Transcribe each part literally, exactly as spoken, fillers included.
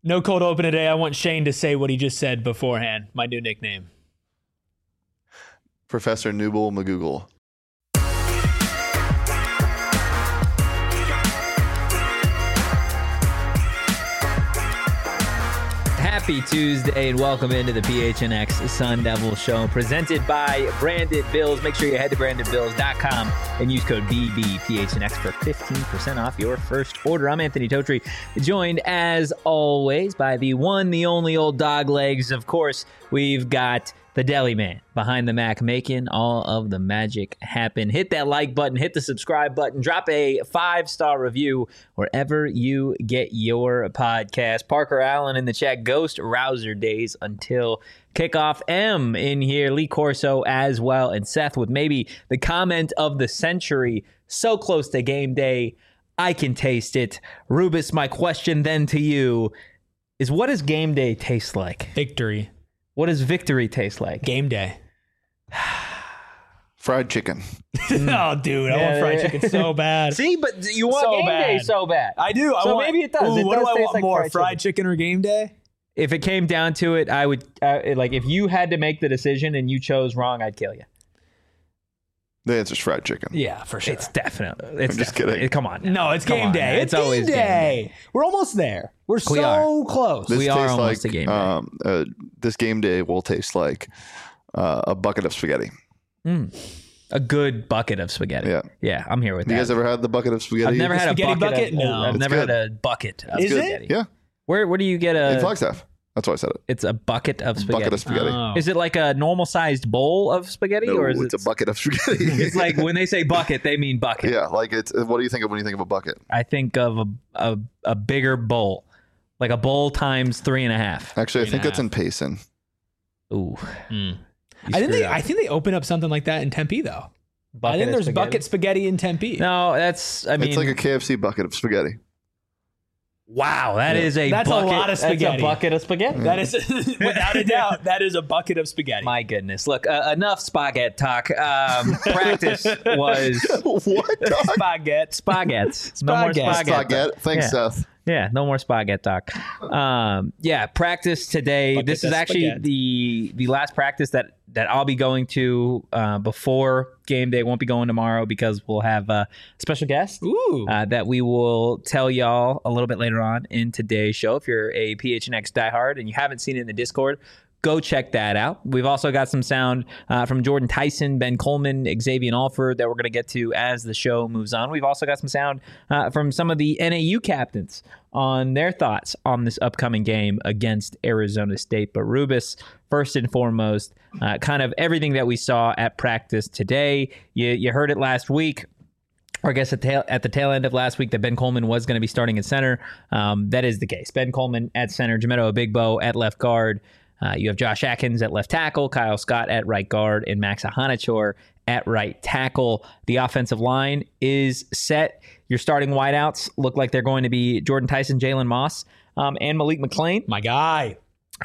No cold open today. I want Shane to say what he just said beforehand. My new nickname. Professor Nooble McGoogle. Happy Tuesday and welcome into the P H N X Sun Devil Show presented by Branded Bills. Make sure you head to branded bills dot com and use code B B P H N X for fifteen percent off your first order. I'm Anthony Totri, joined as always by the one, the only old dog legs. Of course, we've got the Deli Man behind the Mac making all of the magic happen. Hit that like button, hit the subscribe button, drop a five-star review wherever you get your podcast. Parker Allen in the chat, Ghost Rouser Days until kickoff. M in here, Lee Corso as well, and Seth with maybe the comment of the century. So close to game day, I can taste it. Rubus, my question then to you is, what does game day taste like? Victory. What does victory taste like? Game day. Fried chicken. Oh, dude, I Yeah, want fried yeah. chicken so bad. See, but you want So game day bad. so bad. I do. I So want, maybe it does. Ooh, It what does do I taste want like more, fried fried chicken or game day? If it came down to it, I would, uh, like, if you had to make the decision and you chose wrong, I'd kill you. The answer's fried chicken. Yeah, for sure. It's definitely. It's I'm just definitely- kidding. Come on. now. no, it's Come game on, day. man. It's, It's always game game day. We're almost there. We're We so are. close. This We are tastes almost like, a game day. Um, uh, this game day will taste like uh, a bucket of spaghetti. A good bucket of spaghetti. Yeah. Yeah, I'm here with Have you that. guys ever had the bucket of spaghetti? I've never had a Spaghetti bucket. bucket? Of, No. I've It's never good. had a bucket of Is it? spaghetti. Yeah, Where Where do you get in a? Flagstaff. That's why I said it. It's a bucket of spaghetti. Bucket of spaghetti. Oh. Is it like a normal sized bowl of spaghetti, No, or is it's it? a bucket of spaghetti. It's like when they say bucket, they mean bucket. yeah, like it's. What do you think of when you think of a bucket? I think of a, a a bigger bowl, like a bowl times three and a half. Actually, I Three think and a that's in Payson. Ooh, Mm. You I think screwed they. up. I think they open up something like that in Tempe, though. I Bucket think of there's spaghetti? bucket spaghetti in Tempe. No, that's. I mean, it's like a K F C bucket of spaghetti. wow, that Yeah. is a That's a bucket, lot of That's a spaghetti. bucket of spaghetti. That is, without a doubt, that is a bucket of spaghetti. My goodness! Look, uh, enough spaghetti talk. Um, practice was what? dog? Spaghetti. spaghetti. No more Spaghetti. spaghetti. Spaghetti. Thanks, Yeah. Seth. Yeah, no more spaghetti talk. Um, yeah, practice today. Bucket this is of actually spaghetti. the the last practice that that I'll be going to uh, before game day. Won't be going tomorrow because we'll have a special guest Ooh. uh, that we will tell y'all a little bit later on in today's show. If you're a P H N X diehard and you haven't seen it in the Discord, go check that out. We've also got some sound uh, from Jordan Tyson, Ben Coleman, Xavier Alford that we're going to get to as the show moves on. We've also got some sound uh, from some of the N A U captains on their thoughts on this upcoming game against Arizona State. But Rubus, first and foremost, uh, kind of everything that we saw at practice today. You, you heard it last week. Or I guess at, tail, at the tail end of last week that Ben Coleman was going to be starting at center. Um, that is the case. Ben Coleman at center, Jameto Abigbo at left guard. Uh, you have Josh Atkins at left tackle, Kyle Scott at right guard, and Max Ahanachor at right tackle. The offensive line is set. Your starting wideouts look like they're going to be Jordan Tyson, Jalen Moss, um, and Malik McClain. My guy.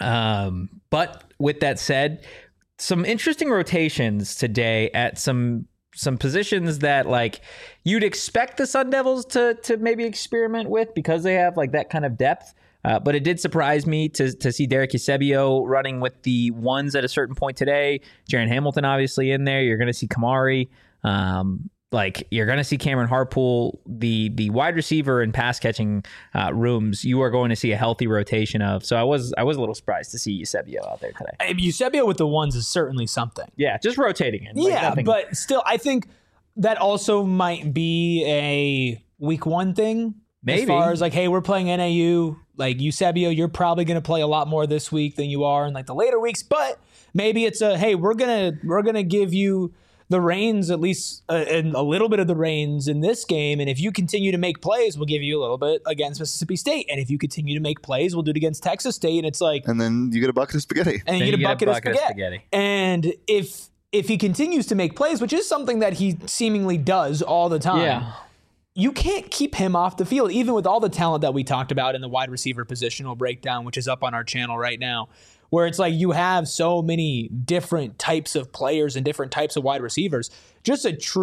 Um, but with that said, some interesting rotations today at some some positions that like you'd expect the Sun Devils to to maybe experiment with because they have like that kind of depth. Uh, but it did surprise me to to see Derek Eusebio running with the ones at a certain point today. Jaron Hamilton obviously in there. You're going to see Kamari. Um, like you're going to see Cameron Harpool. The the wide receiver and pass catching uh, rooms you are going to see a healthy rotation of. So I was I was a little surprised to see Eusebio out there today. I mean, Eusebio with the ones is certainly something. Yeah, just rotating it. Like Yeah, nothing- but still, I think that also might be a week one thing. Maybe. As far as like, hey, we're playing N A U. Like Eusebio, you're probably going to play a lot more this week than you are in like the later weeks. But maybe it's a hey, we're gonna we're gonna give you the reins, at least uh, and a little bit of the reins in this game. And if you continue to make plays, we'll give you a little bit against Mississippi State. And if you continue to make plays, we'll do it against Texas State. And it's like, And then you get a bucket of spaghetti. and Then you get a bucket, of, spaghetti. spaghetti. And if if he continues to make plays, which is something that he seemingly does all the time, Yeah. you can't keep him off the field, even with all the talent that we talked about in the wide receiver positional breakdown, which is up on our channel right now, where it's like you have so many different types of players and different types of wide receivers. Just a true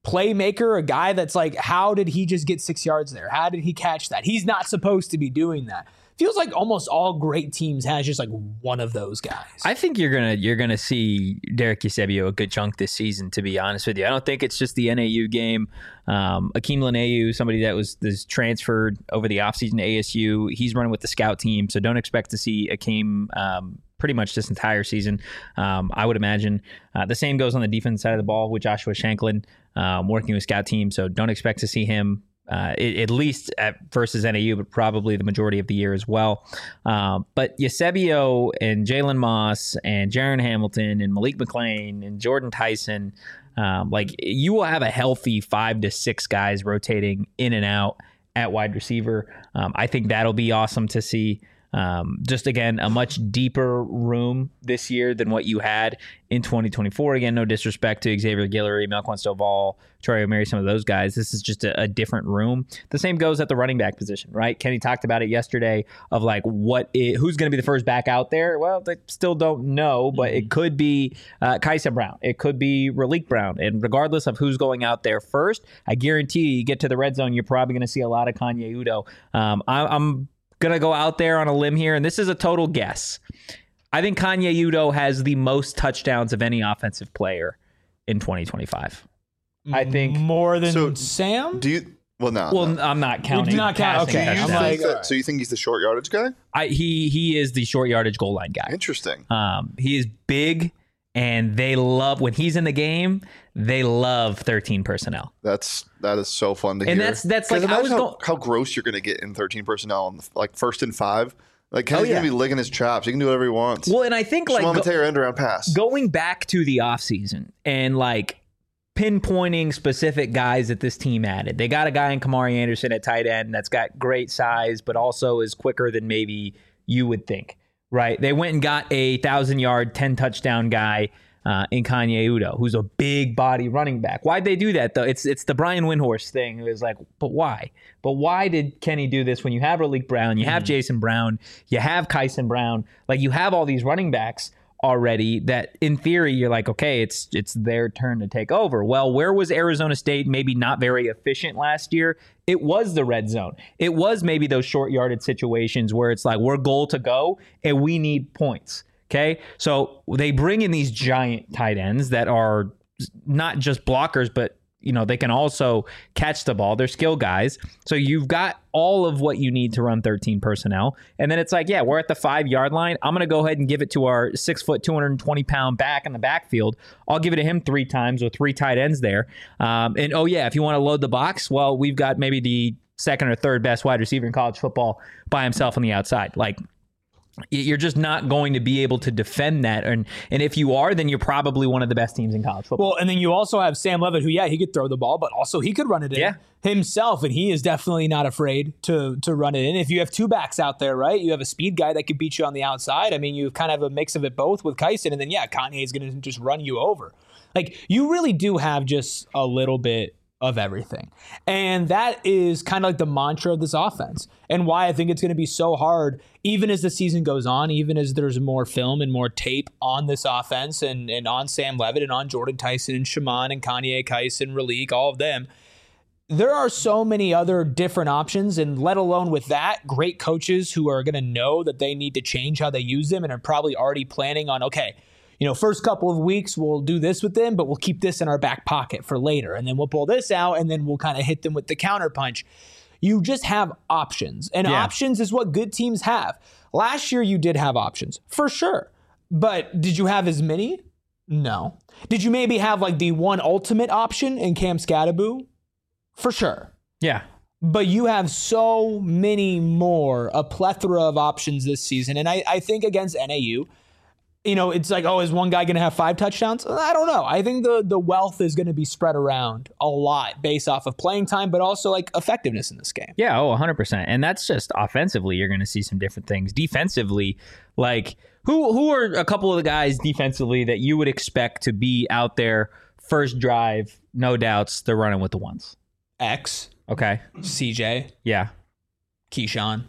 playmaker, a guy that's like, how did he just get six yards there? How did he catch that? He's not supposed to be doing that. Feels like almost all great teams has just like one of those guys. I think you're gonna you're gonna see Derek Eusebio a good chunk this season. To be honest with you, I don't think it's just the N A U game. Um, Akeem Lanayu, somebody that was, was transferred over the offseason to A S U, he's running with the scout team, so don't expect to see Akeem um, pretty much this entire season. Um, I would imagine uh, the same goes on the defense side of the ball with Joshua Shanklin um, working with scout team, so don't expect to see him. Uh, at least at versus N A U, but probably the majority of the year as well. Um, but Eusebio and Jalen Moss and Jaron Hamilton and Malik McClain and Jordan Tyson, um, like you will have a healthy five to six guys rotating in and out at wide receiver. Um, I think that'll be awesome to see. Um, just again, a much deeper room this year than what you had in twenty twenty-four. Again, no disrespect to Xavier Guillory, Melquan Stovall, Troy O'Mary, some of those guys. This is just a, a different room. The same goes at the running back position, right? Kenny talked about it yesterday of like what it, who's going to be the first back out there. Well, they still don't know, but it could be uh, Kaisa Brown. It could be Raleek Brown. And regardless of who's going out there first, I guarantee you, you get to the red zone, you're probably going to see a lot of Kanye Udo. Um, I, I'm Gonna go out there on a limb here, and this is a total guess. I think Kanye Udo has the most touchdowns of any offensive player in twenty twenty-five. I think more than So, Sam. Do you? Well, no. Well, no. I'm not counting. You're not counting. passing Okay, Do you I'm touchdowns. like- think that- alright. so you think he's the short yardage guy? I, he he is the short yardage goal line guy. Interesting. Um, he is big, and they love when he's in the game. They love thirteen personnel. That's that is so fun to And hear. that's- that's 'Cause like, I imagine was how, go- how gross you're going to get in thirteen personnel on the, like first and five. Like Kenny's Oh, yeah. going to be licking his chops. He can do whatever he wants. Well, and I think like Shimon go- Mateo end around pass. going back to the offseason and like pinpointing specific guys that this team added. They got a guy in Kamari Anderson at tight end that's got great size, but also is quicker than maybe you would think, right? They went and got a thousand yard, ten touchdown guy uh, in Kanye Udo, who's a big body running back. Why'd they do that though? It's it's the Brian Windhorst thing. It was like, but why? But why did Kenny do this when you have Raleek Brown, you have Jason Brown, you have Kyson Brown, like you have all these running backs already that in theory you're like, okay, it's it's their turn to take over. Well, where was Arizona State maybe not very efficient last year? It was the red zone. It was maybe those short yarded situations where it's like we're goal to go and we need points. Okay. So they bring in these giant tight ends that are not just blockers, but you know, they can also catch the ball. They're skill guys. So you've got all of what you need to run thirteen personnel. And then it's like, yeah, we're at the five yard line. I'm going to go ahead and give it to our six foot, two hundred twenty pound back in the backfield. I'll give it to him three times with three tight ends there. Um, and oh yeah, if you want to load the box, well, we've got maybe the second or third best wide receiver in college football by himself on the outside. Like, you're just not going to be able to defend that. And and if you are, then you're probably one of the best teams in college football. Well, and then you also have Sam Levitt, who, yeah, he could throw the ball, but also he could run it in Yeah. himself, and he is definitely not afraid to to run it in. If you have two backs out there, right, you have a speed guy that could beat you on the outside. I mean, you kind of have a mix of it both with Kyson, and then, yeah, Kanye is going to just run you over. Like, you really do have just a little bit of everything. And that is kind of like the mantra of this offense and why I think it's going to be so hard, even as the season goes on, even as there's more film and more tape on this offense and, and on Sam Levitt and on Jordan Tyson and Shimon and Kanye Kyson, Raleek, all of them. There are so many other different options, and let alone with that, great coaches who are going to know that they need to change how they use them and are probably already planning on, okay, you know, first couple of weeks, we'll do this with them, but we'll keep this in our back pocket for later. And then we'll pull this out, and then we'll kind of hit them with the counterpunch. You just have options. And Yeah. options is what good teams have. Last year, you did have options, for sure. But did you have as many? No. Did you maybe have like the one ultimate option in Cam Scattaboo? For sure. yeah. But you have so many more, a plethora of options this season. And I, I think against N A U, you know, it's like, oh, is one guy going to have five touchdowns? I don't know. I think the the wealth is going to be spread around a lot based off of playing time, but also like effectiveness in this game. Yeah, oh, one hundred percent. And that's just offensively, you're going to see some different things. Defensively, like who who are a couple of the guys defensively that you would expect to be out there first drive, no doubts, they're running with the ones. X, Okay. C J, Yeah. Keyshawn,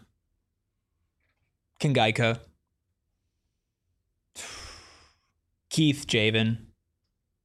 Kangaika, Keith Javen,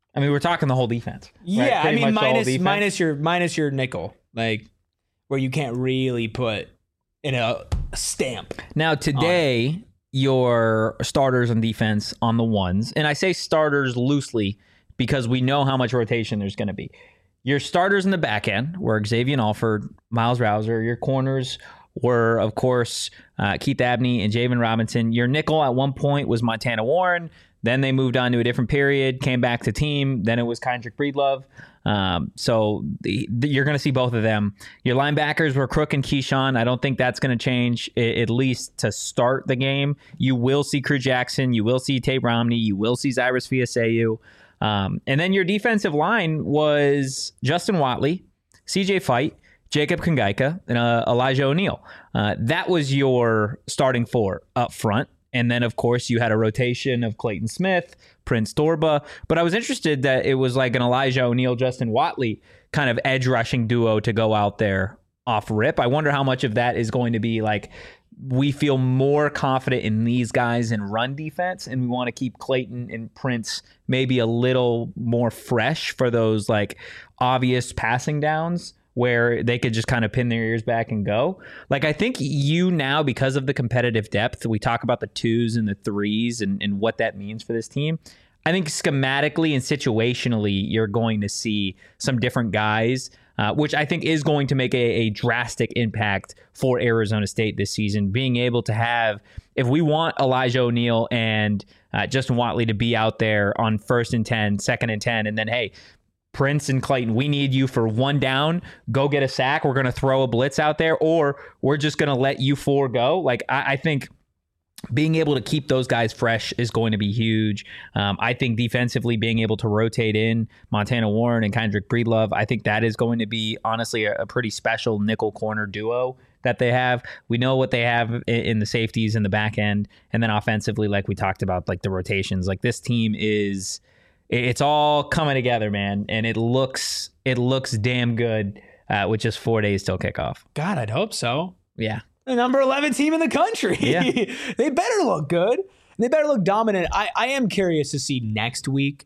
I mean, we're talking the whole defense. Right? Yeah, Pretty I mean, much the whole minus defense. minus your minus your nickel, like where you can't really put in a stamp. Now today, your starters on defense on the ones, and I say starters loosely because we know how much rotation there's going to be. Your starters in the back end were Xavier Alford, Miles Rouser. Your corners were, of course, uh, Keith Abney and Javen Robinson. Your nickel at one point was Montana Warren. Then they moved on to a different period, came back to team. Then it was Kendrick Breedlove. Um, so the, the, you're going to see both of them. Your linebackers were Crook and Keyshawn. I don't think that's going to change, I- at least to start the game. You will see Crew Jackson. You will see Tate Romney. You will see Cyrus Fiaseu. Um, and then your defensive line was Justin Watley, C J Fight, Jacob Kangaika, and uh, Elijah O'Neal. Uh, that was your starting four up front. And then, of course, you had a rotation of Clayton Smith, Prince Dorba. But I was interested that it was like an Elijah O'Neal, Justin Watley kind of edge rushing duo to go out there off rip. I wonder how much of that is going to be like, we feel more confident in these guys in run defense, and we want to keep Clayton and Prince maybe a little more fresh for those like obvious passing downs where they could just kind of pin their ears back and go. Like, I think you now, because of the competitive depth, we talk about the twos and the threes and, and what that means for this team. I think schematically and situationally, you're going to see some different guys, uh, which I think is going to make a, a drastic impact for Arizona State this season. Being able to have, if we want Elijah O'Neal and uh, Justin Watley to be out there on first and ten, second and ten, and then, hey, Prince and Clayton, we need you for one down. Go get a sack. We're going to throw a blitz out there, or we're just going to let you four go. Like, I, I think being able to keep those guys fresh is going to be huge. Um, I think defensively being able to rotate in Montana Warren and Kendrick Breedlove, I think that is going to be honestly a, a pretty special nickel corner duo that they have. We know what they have in, in the safeties in the back end. And then offensively, like we talked about, like the rotations, like this team is, it's all coming together, man. And it looks, it looks damn good uh, with just four days till kickoff. God, I'd hope so. Yeah. The number eleven team in the country. Yeah. They better look good. They better look dominant. I, I am curious to see next week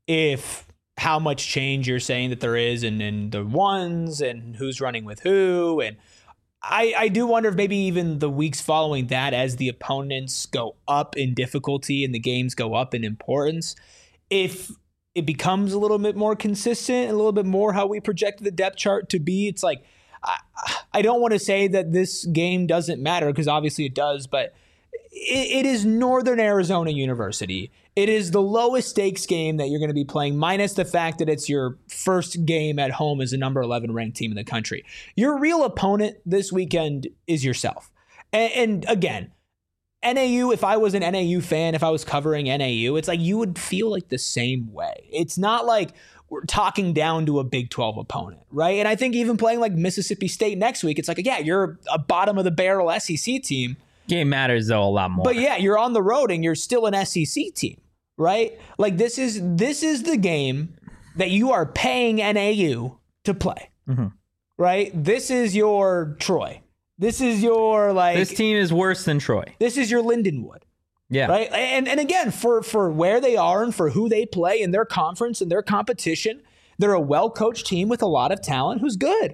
if how much change you're saying that there is in, in the ones and who's running with who. And I, I do wonder if maybe even the weeks following that, as the opponents go up in difficulty and the games go up in importance, if it becomes a little bit more consistent, a little bit more how we projected the depth chart to be. It's like, I, I don't want to say that this game doesn't matter, because obviously it does, but it, it is Northern Arizona University. It is the lowest stakes game that you're going to be playing, minus the fact that it's your first game at home as a number eleven ranked team in the country. Your real opponent this weekend is yourself. And, and again, N A U, if I was an N A U fan, if I was covering N A U, it's like you would feel like the same way. It's not like we're talking down to a Big twelve opponent, right? And I think even playing like Mississippi State next week, it's like, yeah, you're a bottom of the barrel S E C team. Game matters, though, a lot more. But yeah, you're on the road and you're still an S E C team, right? Like this is this is the game that you are paying N A U to play, mm-hmm. right? This is your Troy. This is your like. This team is worse than Troy. This is your Lindenwood. Yeah. Right. And and again, for for where they are and for who they play in their conference and their competition, they're a well-coached team with a lot of talent who's good.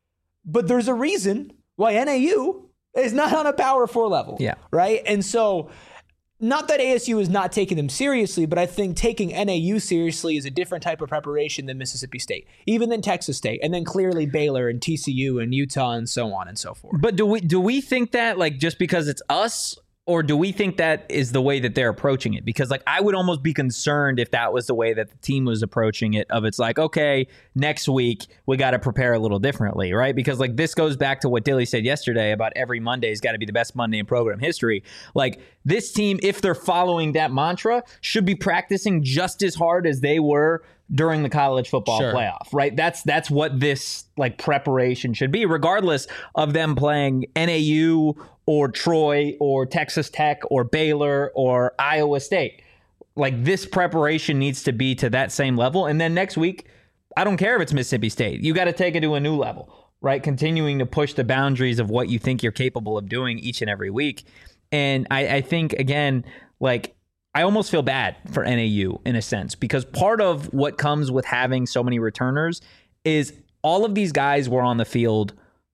But there's a reason why N A U is not on a Power Four level. Yeah. Right. And so, not that A S U is not taking them seriously, but I think taking N A U seriously is a different type of preparation than Mississippi State, even than Texas State, and then clearly Baylor and T C U and Utah and so on and so forth. But do we do we think that like just because it's us? Or do we think that is the way that they're approaching it? Because like I would almost be concerned if that was the way that the team was approaching it, of it's like, okay, next week we got to prepare a little differently, right? Because like this goes back to what Dilly said yesterday about every Monday's got to be the best Monday in program history. Like this team, if they're following that mantra, should be practicing just as hard as they were during the college football Sure. playoff, right? That's that's what this like preparation should be, regardless of them playing N A U or Troy or Texas Tech or Baylor or Iowa State. Like this preparation needs to be to that same level. And then next week, I don't care if it's Mississippi State. You got to take it to a new level, right? Continuing to push the boundaries of what you think you're capable of doing each and every week. And I, I think, again, like I almost feel bad for N A U in a sense, because part of what comes with having so many returners is all of these guys were on the field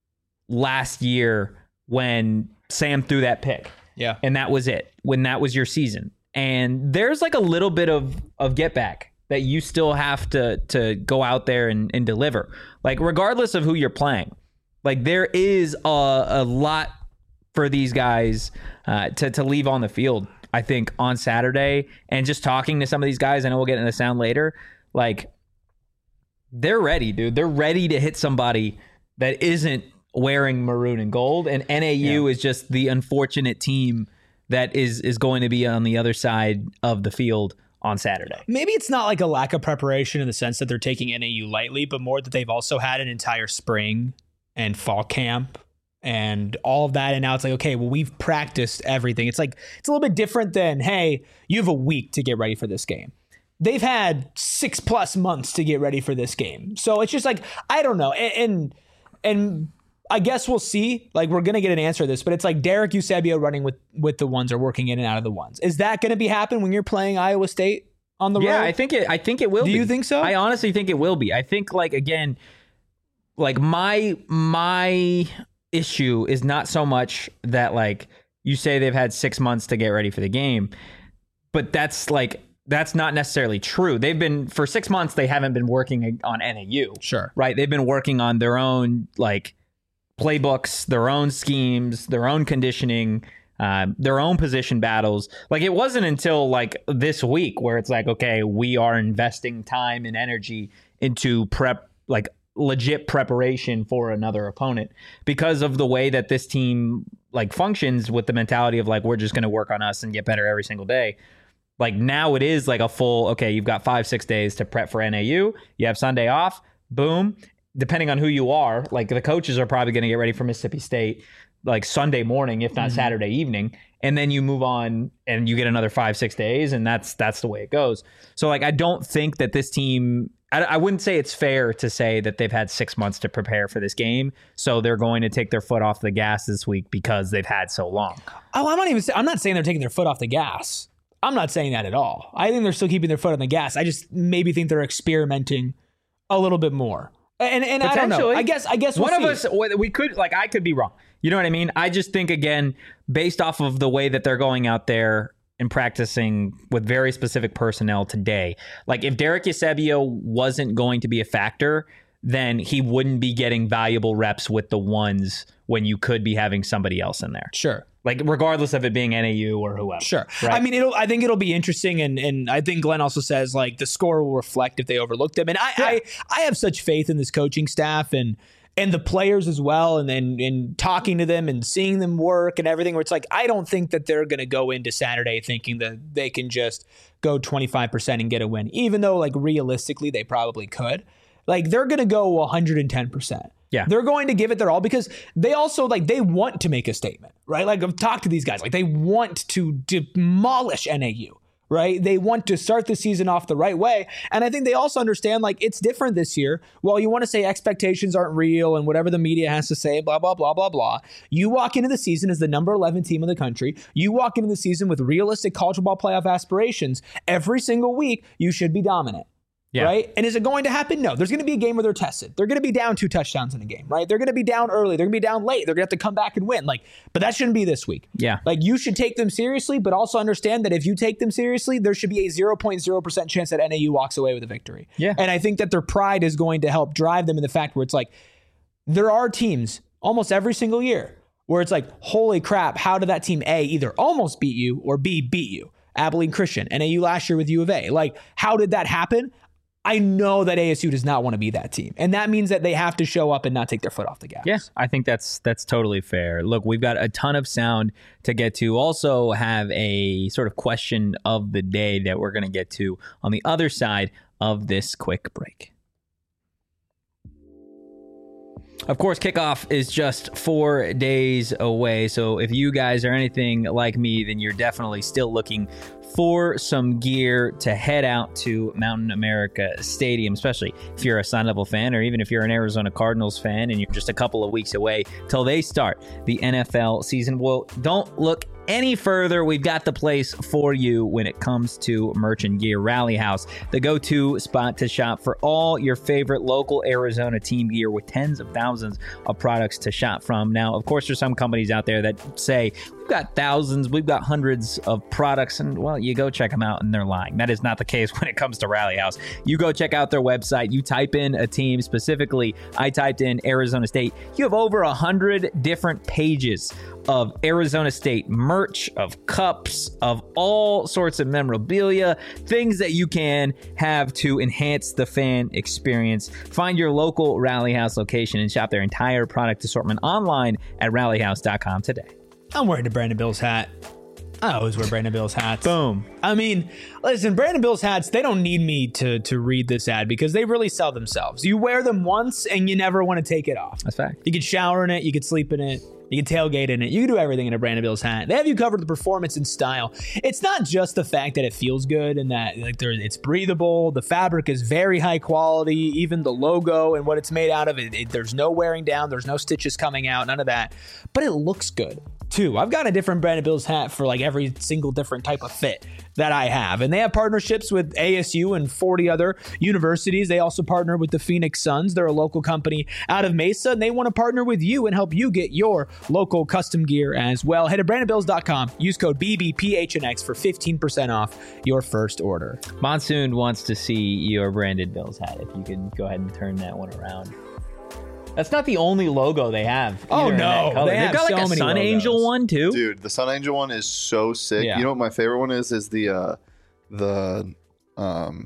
last year when Sam threw that pick. Yeah. And that was it, when that was your season. And there's like a little bit of, of get back that you still have to, to go out there and, and deliver. Like, regardless of who you're playing, like there is a, a lot for these guys uh, to, to leave on the field, I think, on Saturday. And just talking to some of these guys, I know we'll get into the sound later, like they're ready, dude. They're ready to hit somebody that isn't wearing maroon and gold. And N A U yeah. is just the unfortunate team that is is going to be on the other side of the field on Saturday. Maybe it's not like a lack of preparation in the sense that they're taking N A U lightly, but more that they've also had an entire spring and fall camp and all of that. And now it's like, okay, well, we've practiced everything. It's like, it's a little bit different than, hey, you have a week to get ready for this game. They've had six plus months to get ready for this game. So it's just like, I don't know. And, and, and I guess we'll see. Like, we're going to get an answer to this, but it's like Derek Eusebio running with, with the ones or working in and out of the ones. Is that going to be happen when you're playing Iowa State on the yeah, road? Yeah, I think it, I think it will Do be. you think so? I honestly think it will be. I think, like, again, like my, my issue is not so much that, like, you say they've had six months to get ready for the game, but that's like, that's not necessarily true. They've been, for six months, they haven't been working on N A U. Sure. Right? They've been working on their own, like, playbooks, their own schemes, their own conditioning, uh, their own position battles. Like, it wasn't until, like, this week where it's like, okay, we are investing time and energy into prep, like, legit preparation for another opponent, because of the way that this team, like, functions with the mentality of, like, we're just going to work on us and get better every single day. Like, now it is like a full, okay, you've got five, six days to prep for N A U. You have Sunday off. Boom. Depending on who you are, like, the coaches are probably going to get ready for Mississippi State, like, Sunday morning, if not mm-hmm. Saturday evening. And then you move on and you get another five, six days. And that's, that's the way it goes. So, like, I don't think that this team, I, I wouldn't say it's fair to say that they've had six months to prepare for this game. So they're going to take their foot off the gas this week because they've had so long. Oh, I'm not even, I'm not saying they're taking their foot off the gas. I'm not saying that at all. I think they're still keeping their foot on the gas. I just maybe think they're experimenting a little bit more. And and I don't know. I guess I guess we'll one see. of us, we could, like, I could be wrong. You know what I mean? I just think, again, based off of the way that they're going out there and practicing with very specific personnel today, like, if Derek Eusebio wasn't going to be a factor, then he wouldn't be getting valuable reps with the ones when you could be having somebody else in there. Sure. Like, regardless of it being N A U or whoever. Sure. Right? I mean, it'll. I think it'll be interesting, and and I think Glenn also says, like, the score will reflect if they overlook them. And I yeah. I, I have such faith in this coaching staff and and the players as well, and then and talking to them and seeing them work and everything, where it's like, I don't think that they're going to go into Saturday thinking that they can just go twenty-five percent and get a win, even though, like, realistically they probably could. Like, they're going to go one hundred ten percent. Yeah. They're going to give it their all because they also, like, they want to make a statement, right? Like, I've talked to these guys, like, they want to demolish N A U, right? They want to start the season off the right way. And I think they also understand, like, it's different this year. While you want to say expectations aren't real and whatever the media has to say, blah, blah, blah, blah, blah. You walk into the season as the number eleven team in the country. You walk into the season with realistic college football playoff aspirations. Every single week, you should be dominant. Yeah. Right? And is it going to happen? No. There's going to be a game where they're tested. They're going to be down two touchdowns in a game, right? They're going to be down early. They're going to be down late. They're going to have to come back and win. Like, but that shouldn't be this week. Yeah. Like, you should take them seriously, but also understand that if you take them seriously, there should be a zero point zero percent chance that N A U walks away with a victory. Yeah. And I think that their pride is going to help drive them in the fact where it's like, there are teams almost every single year where it's like, holy crap, how did that team A either almost beat you or B beat you? Abilene Christian, N A U last year with U of A. Like, how did that happen? I know that A S U does not want to be that team. And that means that they have to show up and not take their foot off the gas. Yeah, I think that's that's totally fair. Look, we've got a ton of sound to get to. Also have a sort of question of the day that we're going to get to on the other side of this quick break. Of course, kickoff is just four days away. So if you guys are anything like me, then you're definitely still looking for some gear to head out to Mountain America Stadium, especially if you're a Sun Devil fan or even if you're an Arizona Cardinals fan and you're just a couple of weeks away till they start the N F L season. Well, don't look any further, we've got the place for you when it comes to merch and gear. Rally House, the go-to spot to shop for all your favorite local Arizona team gear with tens of thousands of products to shop from. Now, of course, there's some companies out there that say, we've got thousands, we've got hundreds of products, and, well, you go check them out, and they're lying. That is not the case when it comes to Rally House. You go check out their website, you type in a team, specifically, I typed in Arizona State. You have over a hundred different pages of Arizona State merch, of cups, of all sorts of memorabilia, things that you can have to enhance the fan experience. Find your local Rally House location and shop their entire product assortment online at rally house dot com today. I'm wearing a Brandon Bills hat. I always wear Brandon Bills hats. Boom. I mean, listen, Brandon Bills hats, they don't need me to to read this ad because they really sell themselves. You wear them once and you never want to take it off. That's fact. You can shower in it, you can sleep in it, you can tailgate in it, you can do everything in a Brandon Bills hat. They have you covered with performance and style. It's not just the fact that it feels good and that like there, it's breathable. The fabric is very high quality. Even the logo and what it's made out of, it, it, there's no wearing down, there's no stitches coming out, none of that. But it looks good too. I've got a different Brandon Bills hat for like every single different type of fit that I have. And they have partnerships with A S U and forty other universities. They also partner with the Phoenix Suns. They're a local company out of Mesa, and they want to partner with you and help you get your local custom gear as well. Head to brandon bills dot com. Use code B B P H N X for fifteen percent off your first order. Monsoon wants to see your Brandon Bills hat. If you can go ahead and turn that one around. That's not the only logo they have. Oh, in that no. color. They They've have got like so a many Sun logos. Angel one, too. Dude, the Sun Angel one is so sick. Yeah. You know what my favorite one is? Is the uh, the um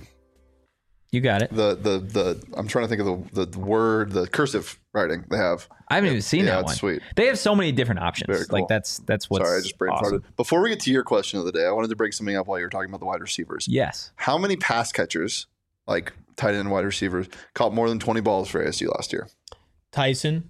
You got it. the the the I'm trying to think of the the word, the cursive writing they have. I haven't even seen yeah, that it's one. sweet. They have so many different options. Very cool. Like that's that's what's Sorry, I just brain awesome. farted. Before we get to your question of the day, I wanted to bring something up while you were talking about the wide receivers. Yes. How many pass catchers, like tight end wide receivers, caught more than twenty balls for A S U last year? Tyson.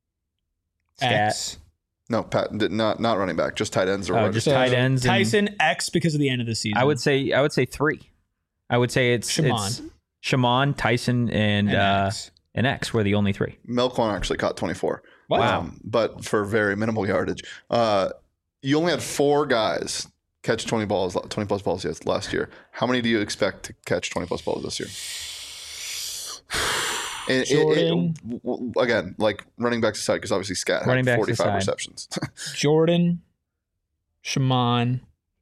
Scat. X. No, Pat, did- not not running back, just tight ends or Oh, wide just receivers. tight ends and- Tyson X because of the end of the season. I would say I would say three. I would say it's Shaman. it's Shaman, Tyson, and, And uh, X. and X were the only three. Melquan actually caught twenty-four. What? Um, but for very minimal yardage. Uh, you only had four guys catch twenty balls, twenty plus balls yes, last year. How many do you expect to catch twenty plus balls this year? And it- it- Jordan. w- w- again, like running backs aside, because obviously Scat had Running backs forty-five aside. receptions. Jordan, Shaman,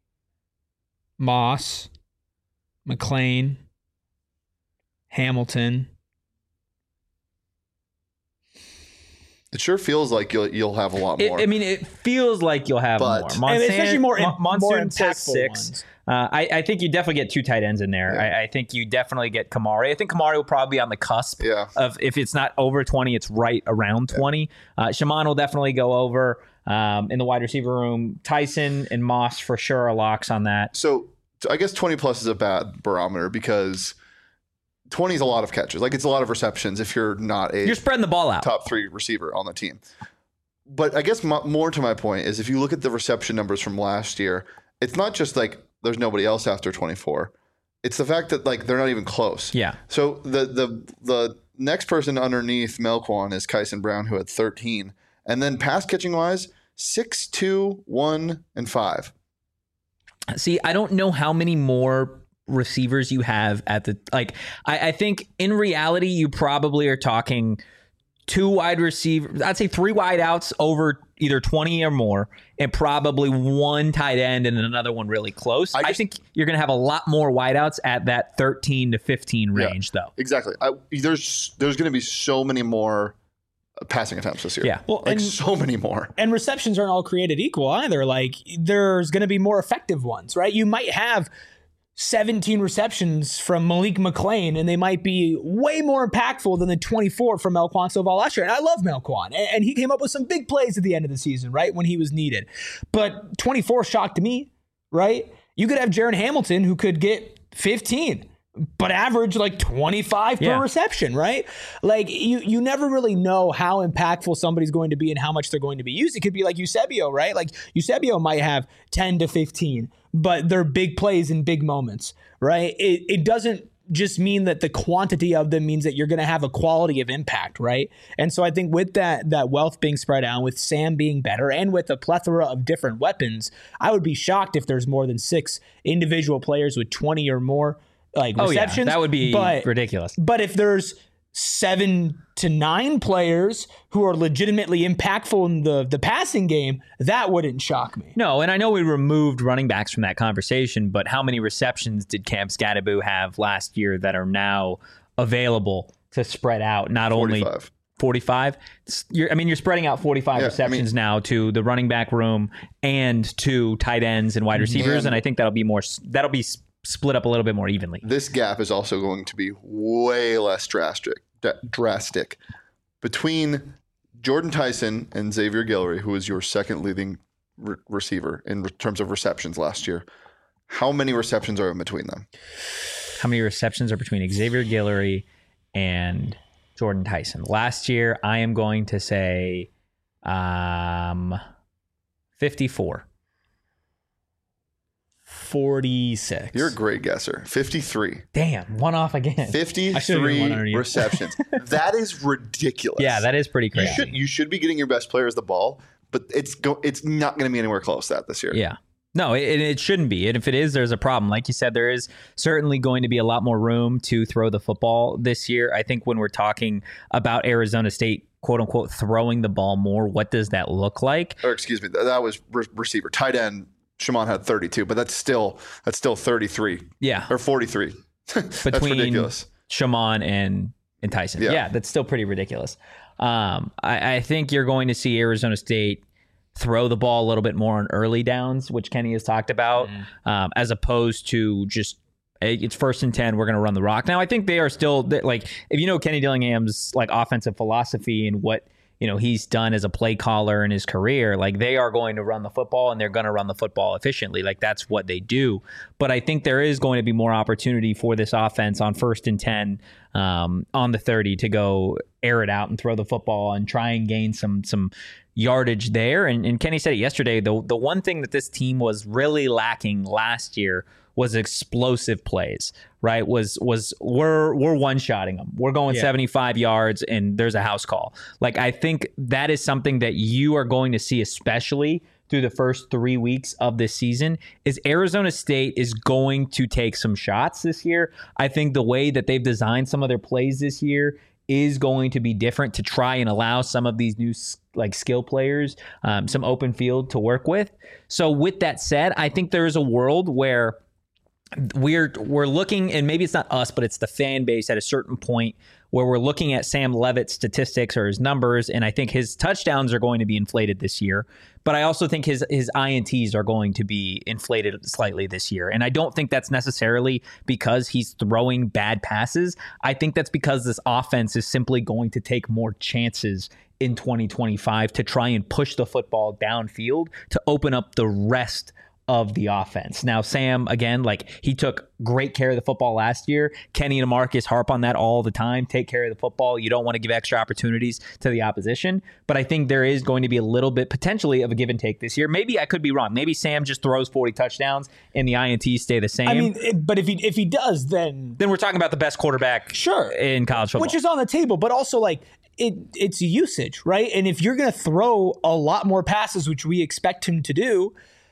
Moss, McLean, Hamilton. It sure feels like you'll you'll have a lot It, more. I mean, it feels like you'll have But- more. And especially more, Mon- more Monsoon says impactful six. ones. Uh, I, I think you definitely get two tight ends in there. Yeah. I, I think you definitely get Kamari. I think Kamari will probably be on the cusp Yeah. of if it's not over twenty, it's right around twenty. Uh, Shaman will definitely go over um, in the wide receiver room. Tyson and Moss for sure are locks on that. So t- I guess twenty plus is a bad barometer because twenty is a lot of catches. Like it's a lot of receptions if you're not a You're spreading the ball out. top three receiver on the team. But I guess mo- more to my point is if you look at the reception numbers from last year, it's not just like there's nobody else after twenty-four. It's the fact that like they're not even close. Yeah. So the the the next person underneath Melquan is Kyson Brown, who had thirteen, and then pass catching wise, six, two, one, and five. See, I don't know how many more receivers you have at the like. I, I think in reality, you probably are talking two wide receivers. I'd say three wide outs over either twenty or more, and probably one tight end and another one really close. I I, just- think you're going to have a lot more wide outs at that thirteen to fifteen range, though. Exactly. I, there's there's going to be so many more passing attempts this year. Yeah. Well, like and- so many more. And receptions aren't all created equal either. Like there's going to be more effective ones, right? You might have seventeen receptions from Malik McLean, and they might be way more impactful than the twenty-four from Melquan Soval last year. And I love Melquan, and, and he came up with some big plays at the end of the season, right, when he was needed. But twenty-four shocked me, right? You could have Jaron Hamilton who could get fifteen, but average like twenty-five Yeah. per reception, right? Like you you never really know how impactful somebody's going to be and how much they're going to be used. It could be like Eusebio, right? Like Eusebio might have ten to fifteen, but they're big plays in big moments, right? It it doesn't just mean that the quantity of them means that you're going to have a quality of impact, right? And so I think with that that wealth being spread out, with Sam being better, and with a plethora of different weapons, I would be shocked if there's more than six individual players with twenty or more like Oh, yeah. receptions. That would be but, ridiculous. But if there's seven to nine players who are legitimately impactful in the the passing game, that wouldn't shock me. No, and I know we removed running backs from that conversation, but how many receptions did Cam Scatterbo have last year that are now available to spread out? Not only forty-five. forty-five. You're, I mean, you're spreading out forty-five Yeah, receptions I mean, now to the running back room and to tight ends and wide receivers, And- and I think that'll be more. That'll be s- split up a little bit more evenly. This gap is also going to be way less drastic, d- drastic between Jordan Tyson and Xavier Guillory, who was your second leading re- receiver in re- terms of receptions last year. How many receptions are in between them? How many receptions are between Xavier Guillory and Jordan Tyson? Last year, I am going to say um, fifty-four. forty-six. You're a great guesser. fifty-three. Damn, one off again. I should've given one fifty-three under you. receptions. That is ridiculous. Yeah, that is pretty You crazy. should you should be getting your best players the ball, but it's go, it's not going to be anywhere close to that this year. Yeah. No, it, it shouldn't be. And if it is, there's a problem. Like you said, there is certainly going to be a lot more room to throw the football this year. I think when we're talking about Arizona State, quote unquote, throwing the ball more, what does that look like? Or excuse me, th- that was re- receiver. Tight end, Shimon had thirty-two, but that's still that's still thirty-three Yeah. or forty-three. That's Between ridiculous. Shimon and, and Tyson. Yeah. Yeah. that's still pretty ridiculous. Um, I, I think you're going to see Arizona State throw the ball a little bit more on early downs, which Kenny has talked about, um, as opposed to just hey, it's first and ten, we're going to run the rock. Now, I think they are still like, if you know Kenny Dillingham's like offensive philosophy and what you know he's done as a play caller in his career, like they are going to run the football and they're going to run the football efficiently. Like that's what they do. But I think there is going to be more opportunity for this offense on first and ten, um, on the thirty to go air it out and throw the football and try and gain some some yardage there. And, and Kenny said it yesterday. The the one thing that this team was really lacking last year was explosive plays, right? Was was we're we're one-shotting them. We're going Yeah. seventy-five yards and there's a house call. Like I think that is something that you are going to see, especially through the first three weeks of this season, is Arizona State is going to take some shots this year. I think the way that they've designed some of their plays this year is going to be different to try and allow some of these new like skill players um, some open field to work with. So with that said, I think there is a world where we're we're looking, and maybe it's not us, but it's the fan base at a certain point where we're looking at Sam Levitt's statistics or his numbers, and I think his touchdowns are going to be inflated this year. But I also think his his I N Ts are going to be inflated slightly this year. And I don't think that's necessarily because he's throwing bad passes. I think that's because this offense is simply going to take more chances in twenty twenty-five to try and push the football downfield to open up the rest of the offense. Now, Sam, again, like he took great care of the football last year. Kenny and Marcus harp on that all the time. Take care of the football. You don't want to give extra opportunities to the opposition. But I think there is going to be a little bit potentially of a give and take this year. Maybe I could be wrong. Maybe Sam just throws forty touchdowns and the I N Ts stay the same. I mean, it, but if he if he does, then then we're talking about the best quarterback sure in college football. which is on the table, but also like it it's usage, right? And if you're going to throw a lot more passes, which we expect him to do,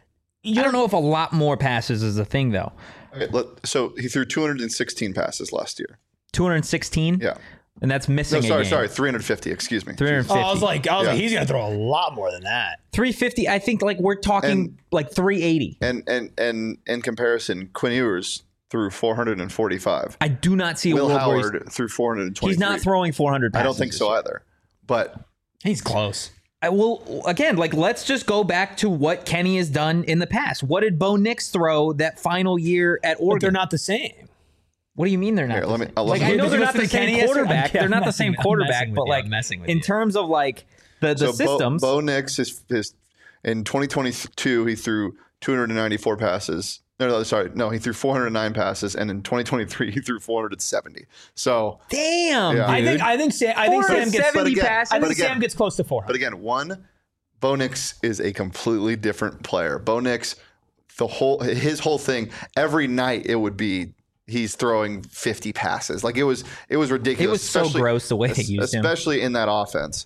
I don't know if a lot more passes is a thing, though. Okay, let, so he threw two hundred sixteen passes last year. two hundred sixteen? Yeah. And that's No, missing sorry, a game. sorry, three hundred fifty. Excuse me. three hundred fifty. oh, I was like, I was Yeah. like, he's going to throw a lot more than that. three fifty, I think like we're talking And- like three eighty. And and and in comparison, Quinn Ewers threw four hundred forty-five. I do not see a Will world where he's, Howard threw four hundred twenty-three. he's not throwing four hundred passes. I don't think this so year. either. But He's close. I will, again, like let's just go back to what Kenny has done in the past. What did Bo Nix throw that final year at But Oregon? they're not the same. What do you mean they're not? Here, the let me- same? I'll like let I me- know Did they're you not listen the to same Kenny yesterday? quarterback. I'm- They're not I'm the same messing- I'm quarterback, messing with but you. like I'm messing with in you. terms of like the the so Bo, systems. Bo Nix is, is in twenty twenty-two he threw two hundred ninety-four passes. No, no, sorry, no, he threw four hundred nine passes, and in twenty twenty-three he threw four hundred seventy. So, Damn, Yeah. dude. I think I think Sam I think Sam gets seventy but again- passes. I but think again- Sam gets close to four but hundred. again, one, Bo Nix is a completely different player. Bo Nix, the whole his whole thing every night it would be he's throwing fifty passes. Like it was, it was ridiculous. It was so especially- gross the way they used him. especially in that offense.